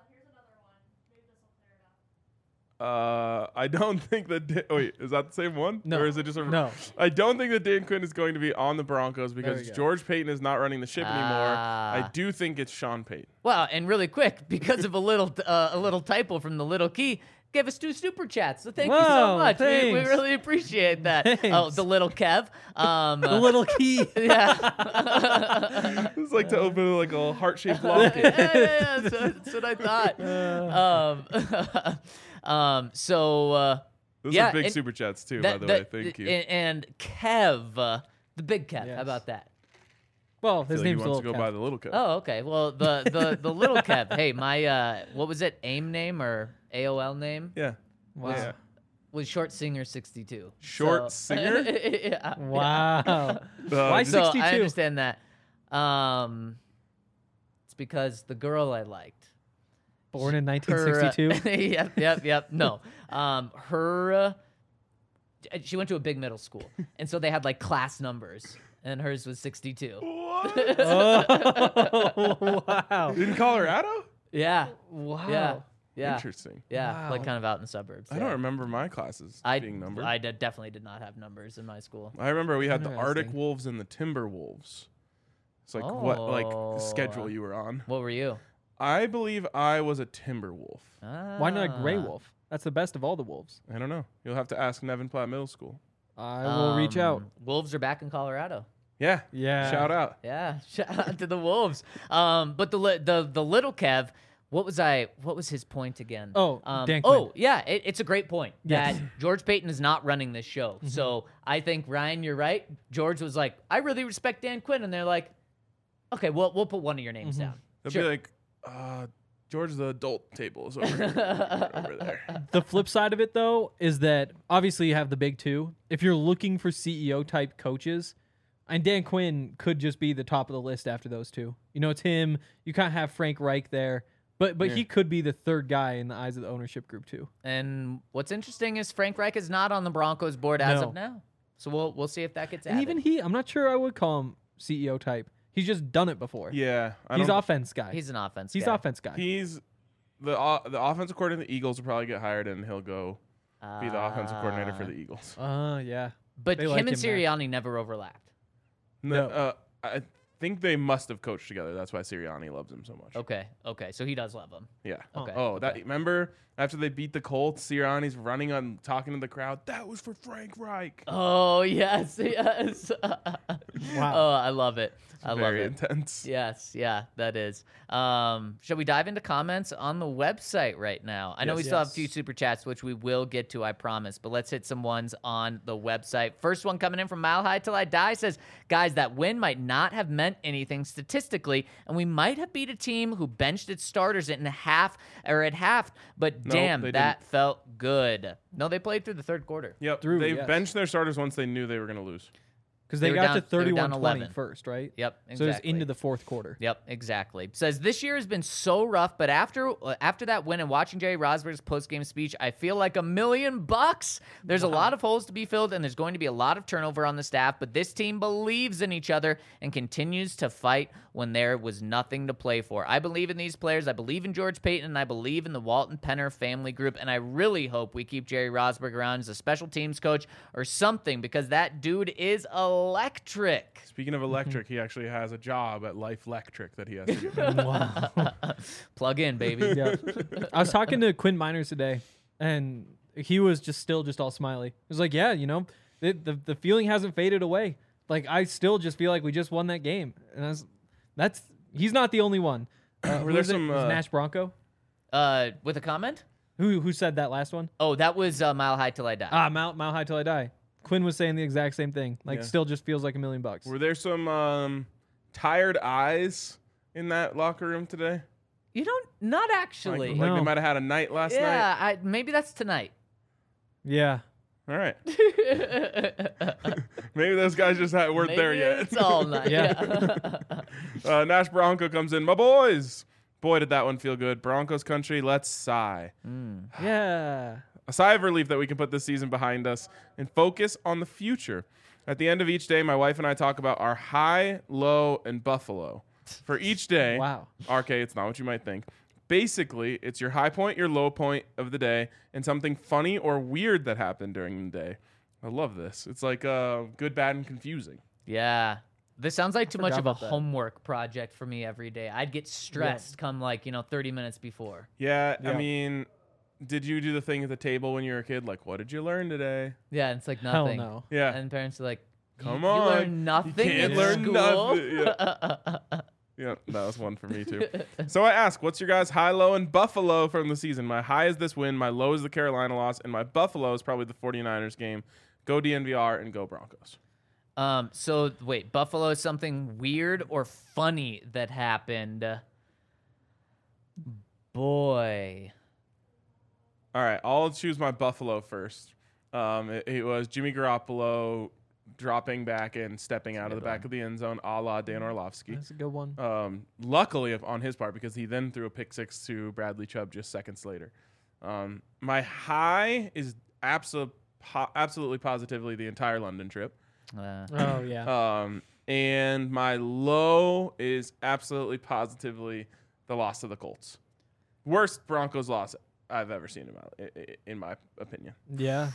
Uh, I don't think that. Dan, wait, is that the same one? No. Or is it just a? No. I don't think that Dan Quinn is going to be on the Broncos There because we go. George Payton is not running the ship anymore. I Ah. do think it's Sean Payton. Well, and really quick, because of a little uh, a little typo from the little key, gave us two super chats. So thank you so Whoa, much. We, we thanks. really appreciate that. Oh, Thanks. the little Kev. Um, The little key. yeah. It's like to open like a heart-shaped yeah, locket. yeah, yeah, that's, that's what I thought. Um, um, so uh, Those yeah, are big and super chats too, that- by the way. that- Thank you. And Kev, uh, the big Kev. How Yes. about that? Well, I feel his like he name's wants Little to go Kev. by the little Kev. Oh, okay. Well, the the the little Kev. Hey, my uh, what was it? AIM name or A O L name Yeah. Wow. Yeah. was Short Singer sixty-two. Short So- Singer? yeah. Wow. Uh, Why just- So I sixty-two? understand that. Um, it's because the girl I liked. Born in nineteen her, uh, sixty-two. yep, yep, yep. No, um, her. Uh, she went to a big middle school, and so they had like class numbers, and hers was sixty-two. Oh, wow. In Colorado? Yeah, Wow. yeah, yeah, Interesting. yeah. Like Wow. kind of out in the suburbs. I yeah. don't remember my classes I being numbered. I I, d- definitely did not have numbers in my school. remember we had the Arctic Interesting. Wolves and the Timber Wolves. It's like what like Oh. the schedule you were on. What were you? I believe I was a Timber Wolf. Why not a gray Ah. wolf? That's the best of all the wolves. I don't know. You'll have to ask Nevin Platte Middle School. I will reach out. Um, Wolves are back in Colorado. Yeah. Yeah. Shout out. Yeah, shout out to the Wolves. Um, but the li- the the little Kev, what was I? What was his point again? Oh, um, Dan Quinn. oh yeah, it, it's a great point Yes. that George Payton is not running this show. Mm-hmm. So I think Ryan, you're right. George was like, I really respect Dan Quinn, and they're like, okay, well we'll put one of your names Mm-hmm. down. They'll Sure. be like, uh, George, the adult table is over, over there. The flip side of it, though, is that obviously you have the big two. If you're looking for C E O type coaches, and Dan Quinn could just be the top of the list after those two. You know, it's him. You kind of have Frank Reich there, but but Yeah. he could be the third guy in the eyes of the ownership group too. And what's interesting is Frank Reich is not on the Broncos board as No. of now. So we'll we'll see if that gets And added. even he, I'm not sure I would call him C E O type. He's just done it before. Yeah. I He's don't- offense guy. He's an offense. He's guy. offense guy. He's the uh, the offensive coordinator of the Eagles will probably get hired and he'll go be the offensive coordinator for the Eagles. Uh, yeah. But They him like and him there. Sirianni never overlapped. No. No. Uh, I think they must have coached together. That's why Sirianni loves him so much. Okay, okay, so he does love him. Yeah. Okay, Oh, that okay. remember after they beat the Colts, Sirianni's running on talking to the crowd. That was for Frank Reich. Oh yes, yes. Wow. Oh, I love it. I love Very it. intense. Yes, yeah, that is. Um, shall we dive into comments on the website right now? I know Yes. we still have a Yes. few super chats, which we will get to, I promise. But let's hit some ones on the website. First one coming in from Mile High Till I Die says, guys, that win might not have meant anything statistically, and we might have beat a team who benched its starters in half or at half. But Nope, damn, they that felt good. No, they played through the third quarter. Yep. Through, they yes. benched their starters once they knew they were going to lose. Because They they, were got down- to they were down thirty-one twenty eleven. first, right? Yep, So it's exactly. into the fourth quarter. Yep, exactly. Says this year has been so rough, but after uh, after that win and watching Jerry Rosberg's post-game speech, I feel like a million bucks. There's a lot of holes to be filled, and there's going to be a lot of turnover on the staff, but this team believes in each other and continues to fight when there was nothing to play for. I believe in these players. I believe in George Payton, and I believe in the Walton Penner family group, and I really hope we keep Jerry Rosberg around as a special teams coach or something, because that dude is electric. Speaking of electric, he actually has a job at Life Electric that he has to do. Wow. Plug in, baby. Yeah. I was talking to Quinn Miners today, and he was just still just all smiley. He was like, yeah, you know, the, the, the feeling hasn't faded away. Like, I still just feel like we just won that game. And I was, that's He's not the only one. Uh, Were who there was it? some, Was uh, Nash Bronco? Uh, with a comment? Who who said that last one? Oh, that was uh, Mile High Till I Die. Ah, Mount Mount High Till I Die. Quinn was saying the exact same thing. Like, Yeah. still just feels like a million bucks. Were there some um, tired eyes in that locker room today? You don't, not Like, actually. like No. they might have had a night last night. yeah, I, maybe that's tonight. Yeah. All right. Maybe those guys just had, weren't there Maybe yet. It's all night. Yeah. Yeah. uh, Nash Bronco comes in. My boys. Boy, did that one feel good. Broncos country, let's sigh. Yeah. A sigh of relief that we can put this season behind us and focus on the future. At the end of each day, my wife and I talk about our high, low, and buffalo. For each day, Wow. R K, it's not what you might think. Basically, it's your high point, your low point of the day, and something funny or weird that happened during the day. I love this. It's like uh, good, bad, and confusing. Yeah. This sounds like too much forgot of a about that. homework project for me every day. I'd get stressed come like, you know, thirty minutes before. Yeah, I Yeah. mean, did you do the thing at the table when you were a kid? Like, what did you learn today? Yeah, it's like Hell nothing. no. Yeah. And parents are like, Come you, on. You learn nothing can't in learn school. nothing. Yeah. Yeah, that was one for me too. So I ask, what's your guys' high, low, and buffalo from the season? My high is this win, my low is the Carolina loss, and my buffalo is probably the 49ers game. Go D N V R and go Broncos. Um, so wait, Buffalo is something weird or funny that happened. Boy. All right, I'll choose my buffalo first. Um, it, it was Jimmy Garoppolo dropping back and stepping out of the good back one. of the end zone, a la Dan Orlovsky. That's a good one. Um, luckily of- on his part, because he then threw a pick six to Bradley Chubb just seconds later. Um, my high is abso- po- absolutely positively the entire London trip. Uh, Oh, yeah. Um, and my low is absolutely positively the loss to the Colts. Worst Broncos loss I've ever seen in my, i- i- in my opinion. yeah.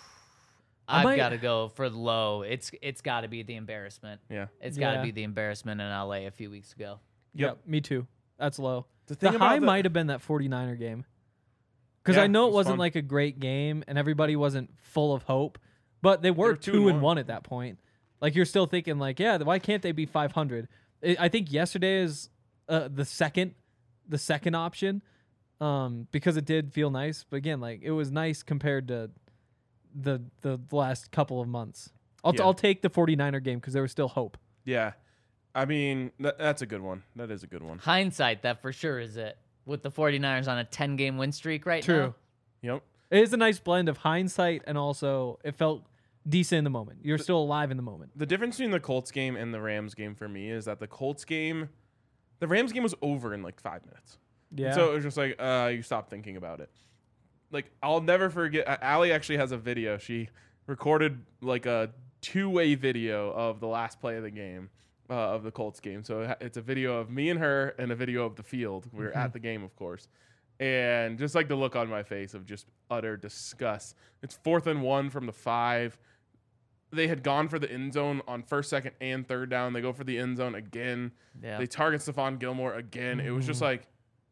I I've might- got to go for low. It's it's got to be the embarrassment. Yeah. It's got to Yeah. be the embarrassment in L A a few weeks ago. Yep. Me too. That's low. The The, thing about high the- might have been that 49er game. Because Yeah, I know it it was wasn't fun. like a great game and everybody wasn't full of hope, but they were, were two two, and and one. one at that point. Like, you're still thinking, like, yeah, why can't they be five hundred? I I think yesterday is uh, the second, the second option, um, because it did feel nice. But again, like, it was nice compared to the the last couple of months. I'll, Yeah. I'll take the 49er game because there was still hope. Yeah. I mean, th- that's a good one. That is a good one. Hindsight, that for sure is it. With the 49ers on a ten-game win streak right True. now. Yep. It is a nice blend of hindsight and also it felt decent in the moment. You're still alive in the moment. The difference between the Colts game and the Rams game for me is that the Colts game, the Rams game was over in like five minutes. Yeah. So it was just like, uh, you stop thinking about it. Like, I'll never forget. uh, Allie actually has a video. She recorded like a two-way video of the last play of the game, uh, of the Colts game. So it ha- it's a video of me and her and a video of the field. We were at the game, of course. And just like the look on my face of just utter disgust. It's fourth and one from the five. They had gone for the end zone on first, second, and third down. They go for the end zone again. Yeah. They target Stephon Gilmore again. It was just like,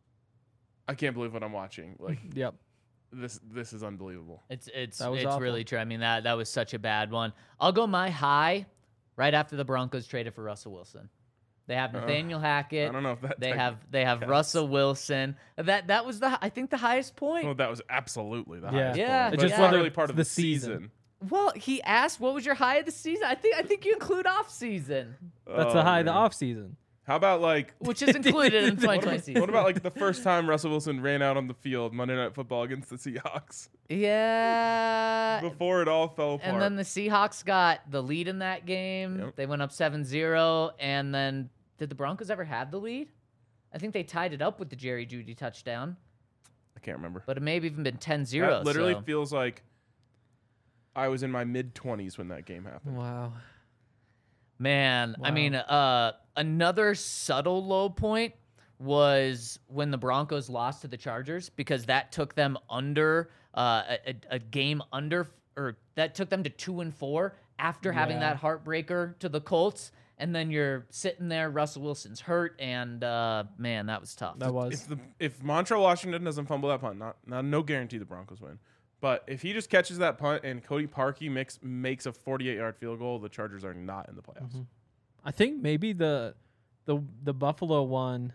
I can't believe what I'm watching. Like, Yep. this this is unbelievable. It's it's That was it's awful. really true. I mean that that was such a bad one. I'll go my high right after the Broncos traded for Russell Wilson. They have Uh, Nathaniel I Hackett. don't know if that They tech- have they have counts. Russell Wilson. That that was the I think the highest point. Well, that was absolutely the Yeah. highest Yeah. point. It But just it's not whether really part of the the season. season. Well, he asked what was your high of the season. I think I think you include off season, That's Oh, the high of the man. off season. How about like which is included in the twenty twenty season. what about like the first time Russell Wilson ran out on the field Monday Night Football against the Seahawks Yeah. before it all fell apart? And then the Seahawks got the lead in that game. Yep. They went up seven zero. And then did the Broncos ever have the lead? I think they tied it up with the Jerry Jeudy touchdown, I can't remember. but it may have even been ten zero. That literally so. feels like I was in my mid twenties when that game happened. Wow. Man, I Wow. mean, uh, another subtle low point was when the Broncos lost to the Chargers because that took them under uh, a, a game under, or that took them to two and four after having Yeah. that heartbreaker to the Colts. And then you're sitting there, Russell Wilson's hurt, and uh, man, that was tough. That was. If the if Montreal Washington doesn't fumble that punt, not not no guarantee the Broncos win. But if he just catches that punt and Cody Parkey makes makes a forty-eight yard field goal, the Chargers are not in the playoffs. I think maybe the the the Buffalo one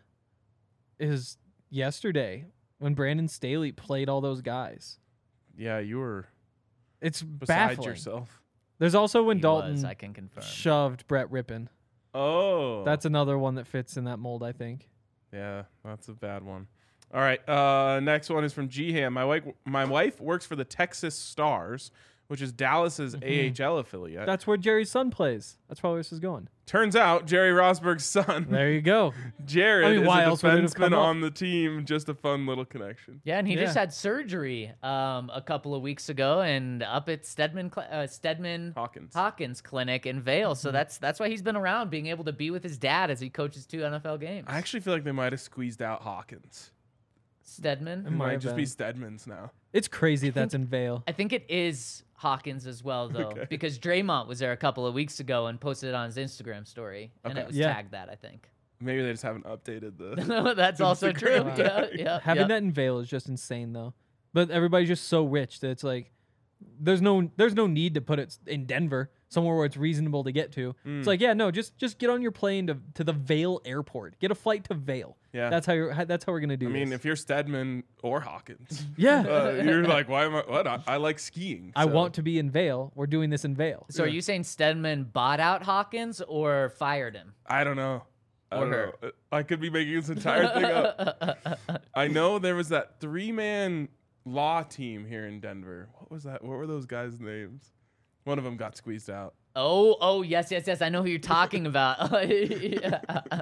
is yesterday when Brandon Staley played all those guys. Yeah, you were It's beside baffling. yourself. There's also when He Dalton was, I can confirm. shoved Brett Rippon. Oh. That's another one that fits in that mold, I think. Yeah, that's a bad one. All right, uh, next one is from G-Ham. My wife, my wife works for the Texas Stars, which is Dallas's A H L affiliate. That's where Jerry's son plays. That's probably where this is going. Turns out Jerry Rosberg's son, There you go. Jared, I mean, is why a else would it have come defenseman up? on the team. Just a fun little connection. Yeah, and he just Yeah. had surgery um, a couple of weeks ago, and up at Stedman Cl- uh, Stedman Hawkins. Hawkins Clinic in Vale. So that's that's why he's been around, being able to be with his dad as he coaches two N F L games. I actually feel like they might have squeezed out Hawkins. Stedman. It might might have just be been. Stedman's now. It's crazy that's in Vale. I think it is Hawkins as well, though, Okay. because Draymond was there a couple of weeks ago and posted it on his Instagram story, and Okay. it was Yeah. tagged that, I think. Maybe they just haven't updated the. That's also true. Instagram Yeah, tag. yeah, Having yeah. that in Vale is just insane, though. But everybody's just so rich that it's like there's no there's no need to put it in Denver, somewhere where it's reasonable to get to. Mm. It's like, yeah, no, just just get on your plane to to the Vale airport. Get a flight to Vale. Yeah. That's how you're. how- That's how we're gonna do I mean, this. if you're Stedman or Hawkins, yeah, uh, you're like, why am I? What? I, I like skiing. I so- want to be in Vale. We're doing this in Vale. So are you saying Stedman bought out Hawkins or fired him? I don't know. I Or don't her. know. I could be making this entire thing up. I know there was that three-man law team here in Denver. What was that? What were those guys' names? One of them got squeezed out. Oh, oh, yes, yes, yes. I know who you're talking about. Yeah.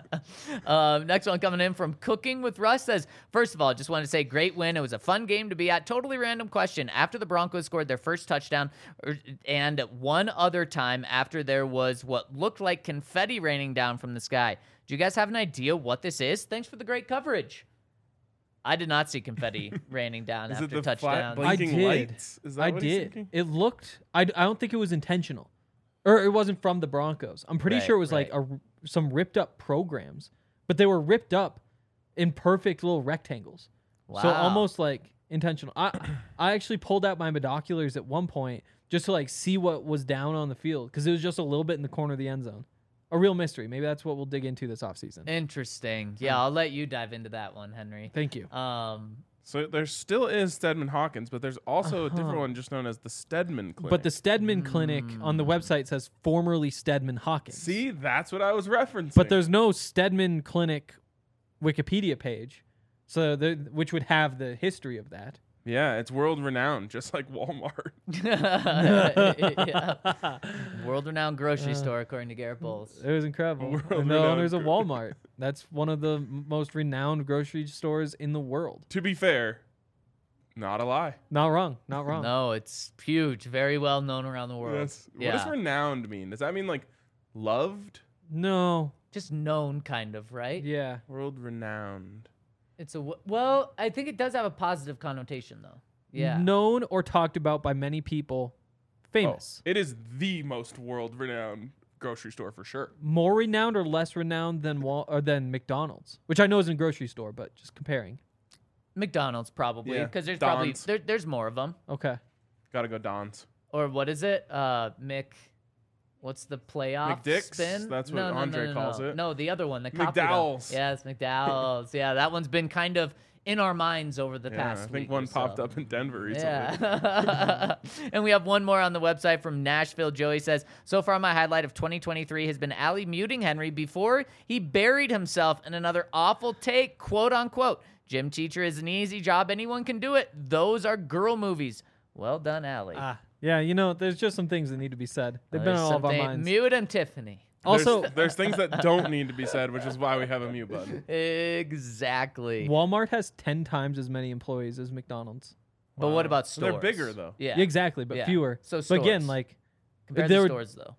um, next one coming in from Cooking with Russ says, first of all, just wanted to say great win. It was a fun game to be at. Totally random question. After the Broncos scored their first touchdown er, and one other time after there was what looked like confetti raining down from the sky, do you guys have an idea what this is? Thanks for the great coverage. I did not see confetti raining down Is after it the touchdown. flat blinking I did. lights? Is that I what he's did. thinking? It looked. I, I don't think it was intentional, or it wasn't from the Broncos. I'm pretty Right, sure it was like right. a, some ripped up programs, but they were ripped up in perfect little rectangles. So Wow. almost like intentional. I I actually pulled out my binoculars at one point just to like see what was down on the field because it was just a little bit in the corner of the end zone. A real mystery. Maybe that's what we'll dig into this offseason. Interesting. Yeah, I'll let you dive into that one, Henry. Thank you. Um, So there still is Stedman Hawkins, but there's also a different Uh-huh. one just known as the Stedman Clinic. But the Stedman Clinic on the website says formerly Stedman Hawkins. See, that's what I was referencing. But there's no Stedman Clinic Wikipedia page, so there, which would have the history of that. yeah, it's world renowned, just like Walmart. yeah. World-renowned grocery store, according to Garrett Bowles. It was incredible. World And the renowned owners of gro- Walmart. That's one of the m- most renowned grocery stores in the world. To be fair, not a lie. Not wrong. Not wrong. No, it's huge, very well known around the world. Yes. What Yeah. does renowned mean? Does that mean like loved? No. Just known, kind of, right? Yeah. World renowned. It's a w- well, I think it does have a positive connotation, though. Yeah. Known or talked about by many people. Famous. Oh, it is the most world renowned grocery store for sure. More renowned or less renowned than Wal- or than McDonald's, which I know is a grocery store, but just comparing. McDonald's probably Yeah, because there's probably Don's. there, there's more of them. Okay. Gotta go Don's. Or what is it? Uh, Mick. What's the playoff McDick's? spin? That's what no, no, Andre no, no, calls no. it. No, the other one, the coffee one. McDowell's. Yes, McDowell's. Yeah, that one's been kind of in our minds over the Yeah, past I think week one or popped so. up in Denver recently. Yeah. And we have one more on the website from Nashville. Joey says, so far my highlight of twenty twenty-three has been Allie muting Henry before he buried himself in another awful take, quote unquote. Gym teacher is an easy job. Anyone can do it. Those are girl movies. Well done, Allie. Ah. Yeah, you know, there's just some things that need to be said. They've been There's on all of our something- minds. Mute him, Tiffany. Also, there's, there's things that don't need to be said, which is why we have a mute button. Exactly. Walmart has ten times as many employees as McDonald's. But what about So they're stores? bigger, though. Yeah. Yeah, exactly, but Yeah. fewer. So but again, stores. like Compared there to were- stores, though.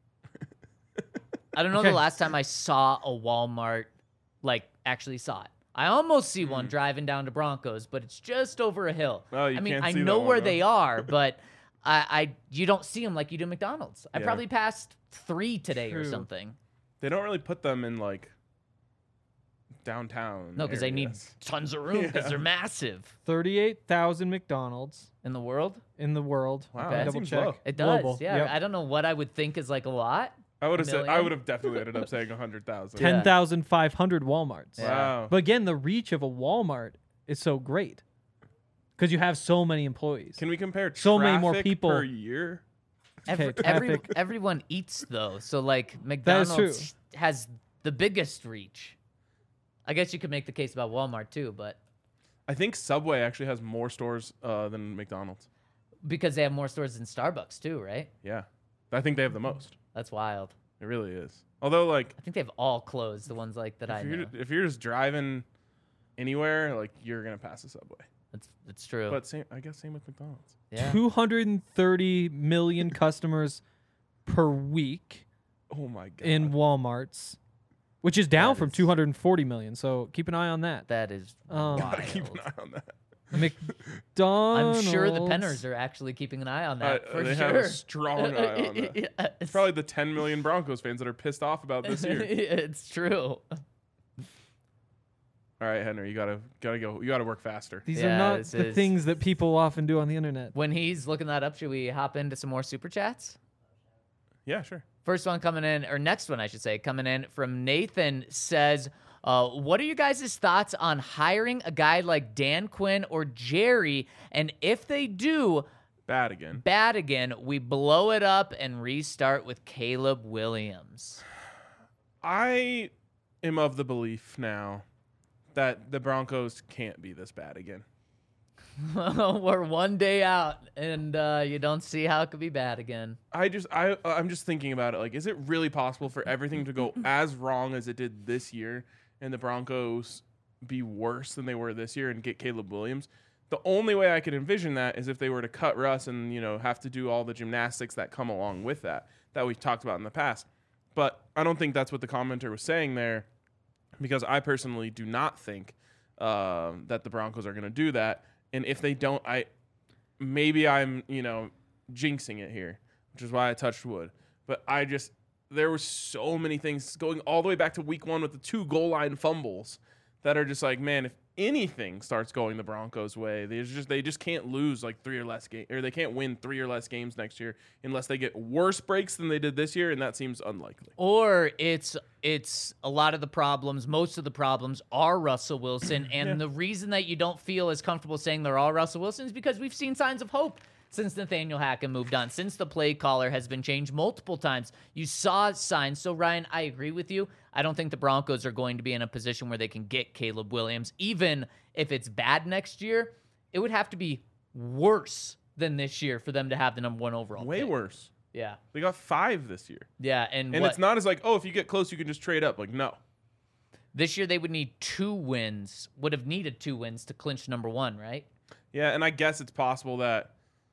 I don't know Okay. the last time I saw a Walmart, like, actually saw it. I almost see one driving down to Broncos, but it's just over a hill. Hmm. Oh, you I mean, can't I see that know one, where huh? they are, but I, I you don't see them like you do McDonald's. I Yeah. probably passed three today or True. something. They don't really put them in like downtown. No, because they need areas. tons of room because Yeah. they're massive thirty-eight thousand McDonald's in the world. in the world. Wow, Okay. that Double seems check. low. It does. Global. Yeah. Yep. I don't know what I would think is like a lot, I would have said. I million? would have definitely ended up saying a hundred thousand. Yeah. ten thousand five hundred Walmarts. Yeah. Wow. But again, the reach of a Walmart is so great because you have so many employees. Can we compare So many more traffic people. per year? Every, Okay, every, traffic. everyone eats though, so like That is McDonald's has the biggest reach. I guess you could make the case about Walmart too, but I think Subway actually has more stores uh, than McDonald's. because they have more stores than Starbucks too, right? Yeah, I think they have the most. That's wild. It really is. Although, like, I think they've all closed, the ones like that I if know. you're, if you're just driving anywhere, like, you're gonna pass a Subway. That's that's true. But same, I guess same with McDonald's. yeah. two hundred thirty million customers per week Oh my god. in Walmarts, which is down That from is- two hundred forty million. So keep an eye on that. That is Um, Gotta keep an wild. eye on that. I'm McDonald's. sure the Penners are actually keeping an eye on that Uh, for they sure. have a strong eye on that. Yes. It's probably the ten million Broncos fans that are pissed off about this year. It's true. All right, Henry, you gotta gotta go. You gotta work faster. These Yeah, are not this the is- things that people often do on the internet. When he's looking that up, should we hop into some more super chats? Yeah, sure. First one coming in, or next one, I should say, coming in from Nathan says, uh, what are you guys' thoughts on hiring a guy like Dan Quinn or Jerry? And if they do Bad again. bad again, we blow it up and restart with Caleb Williams. I am of the belief now that the Broncos can't be this bad again. We're one day out, and uh, you don't see how it could be bad again. I just I I'm just thinking about it. Like, is it really possible for everything to go as wrong as it did this year, and the Broncos be worse than they were this year and get Caleb Williams? The only way I could envision that is if they were to cut Russ and, you know, have to do all the gymnastics that come along with that that we've talked about in the past. But I don't think that's what the commenter was saying there, because I personally do not think uh, that the Broncos are going to do that. And if they don't, I maybe I'm, you know, jinxing it here, which is why I touched wood. But I just, there were so many things going all the way back to week one with the two goal line fumbles that are just like, man, if anything starts going the Broncos' way, they just they just can't lose like three or less games, or they can't win three or less games next year unless they get worse breaks than they did this year, and that seems unlikely. Or it's it's a lot of the problems, most of the problems are Russell Wilson, and Yeah. the reason that you don't feel as comfortable saying they're all Russell Wilson is because we've seen signs of hope since Nathaniel Hackett moved on, since the play caller has been changed multiple times. You saw signs. So, Ryan, I agree with you. I don't think the Broncos are going to be in a position where they can get Caleb Williams. Even if it's bad next year, it would have to be worse than this year for them to have the number one overall Way pick. worse. Yeah. They got five this year. Yeah, and, And what, it's not as like, oh, if you get close, you can just trade up. Like, no. this year they would need two wins, would have needed two wins to clinch number one, right? Yeah, and I guess it's possible that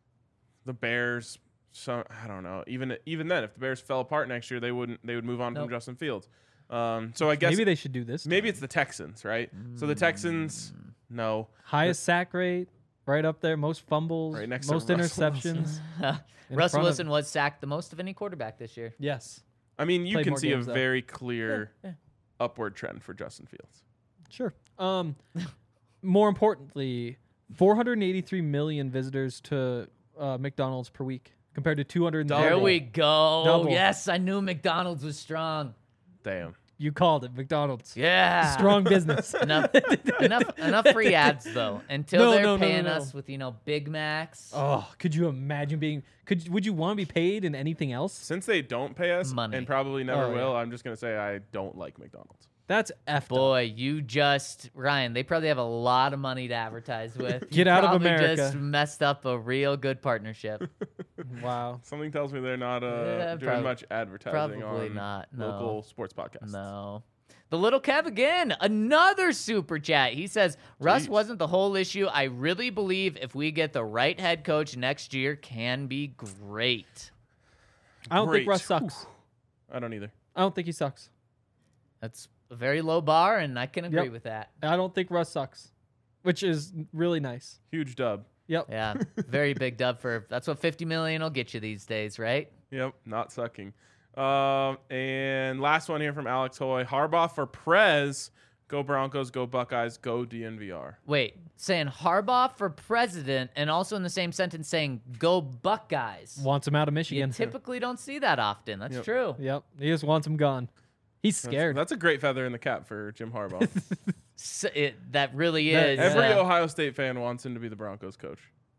the Bears, so I don't know. Even even then, if the Bears fell apart next year, they wouldn't. They would move on Nope. from Justin Fields. Um, so I guess Maybe maybe, they should do this. it's the Texans, right? So the Texans, no, Highest sack rate, right up there. Most fumbles, Right next to most Russell interceptions. in Russell front of- Wilson was sacked the most of any quarterback this year. Yes, I mean you Played can more see a games, though. very clear Yeah, yeah. upward trend for Justin Fields. sure. Um, more importantly, four hundred eighty-three million visitors to uh, McDonald's per week compared to two hundred. There we go. Double. Yes, I knew McDonald's was strong. Damn. You called it McDonald's. Yeah. Strong business. enough, enough, enough free ads though. Until No, they're no, no, no, paying no. us with you know Big Macs. Oh, could you imagine being? Could would you want to be paid in anything else? Since they don't pay us Money. and probably never Oh, yeah. will, I'm just gonna say I don't like McDonald's. That's effed up. Boy, you just Ryan. They probably have a lot of money to advertise with. You Get out of probably America. Just messed up a real good partnership. Wow. Something tells me they're not uh, Yeah, doing prob- much advertising probably on not, no. local sports podcasts. No. The little Kev again, another super chat. He says, Russ Jeez. wasn't the whole issue. I really believe if we get the right head coach next year, can be great. I don't Great. think Russ sucks. I don't either. I don't think he sucks. That's a very low bar, and I can agree Yep. with that. I don't think Russ sucks, which is really nice. Huge dub. Yep. Yeah, very big dub for that's what fifty million will get you these days, right? Yep, not sucking. Um, and last one here from Alex Hoy. Harbaugh for Prez Go Broncos, go Buckeyes, go D N V R. Wait, saying Harbaugh for president and also in the same sentence saying go Buckeyes. Wants him out of You Michigan. typically don't see that often. That's Yep. true. Yep. He just wants him gone. He's That's, scared. that's a great feather in the cap for Jim Harbaugh. So it, that really That- is. Every uh, Ohio State fan wants him to be the Broncos coach.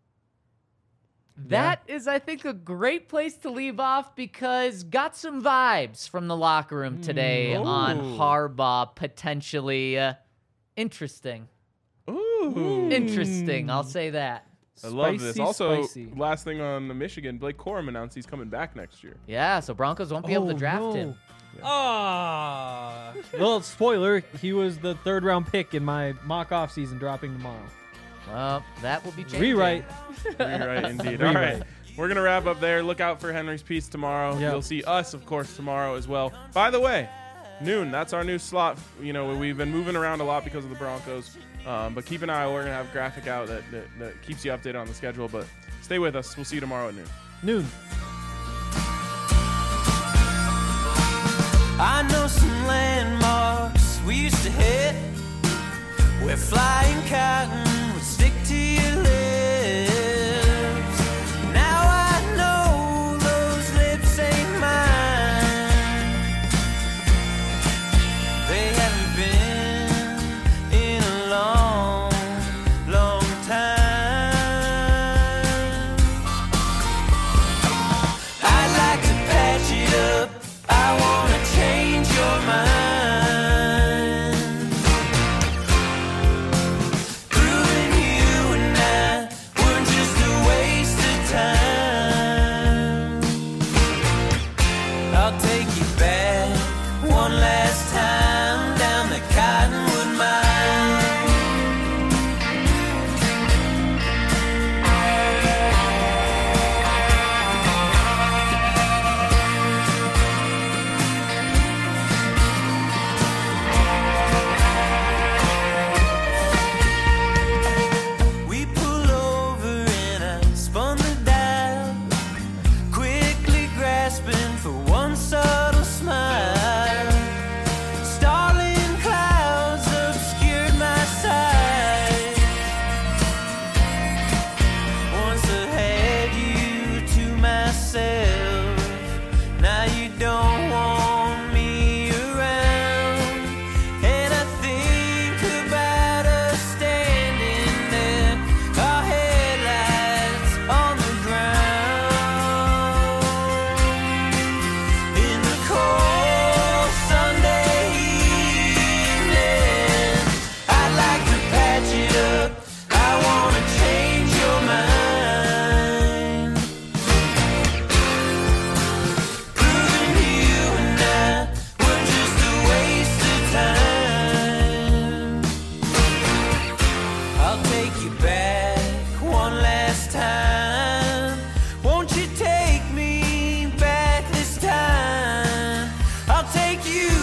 That is, I think, a great place to leave off because got some vibes from the locker room today Mm. on Ooh. Harbaugh potentially uh, interesting. Ooh. Interesting, I'll say that. I love this. Spicy, Also, spicy. last thing on the Michigan, Blake Corum announced he's coming back next year. Yeah, so Broncos won't be able to Oh, draft no. him. Ah. Well, spoiler, he was the third round pick in my mock off season dropping tomorrow. Well, that will be changing. Rewrite. Rewrite, indeed. All right. We're going to wrap up there. Look out for Henry's piece tomorrow. Yep. You'll see us, of course, tomorrow as well. By the way, noon, that's our new slot. You know, we've been moving around a lot because of the Broncos. Um, but keep an eye. We're going to have a graphic out that, that, that keeps you updated on the schedule. But stay with us. We'll see you tomorrow at noon. Noon. I know some landmarks we used to hit where flying cotton would stick to your lips. Now I know those lips ain't mine. They haven't been in a long, long time. I'd like to patch it up. I wanna change your mind. Proving you and I were just a waste of time. I'll take you back one last time down the Cottonwood Mine. We pull over and I spun the dial, quickly grasping for one subtle smile. Starling clouds obscured my sight. Once I had you to myself, now you don't want me around. And I think about us standing there, our headlights on the ground. In the cold Sunday evening, I'd like to patch it up. I wanna change your mind. Proving you and I were just a waste of time. I'll take you back one last time. Won't you take me back this time? I'll take you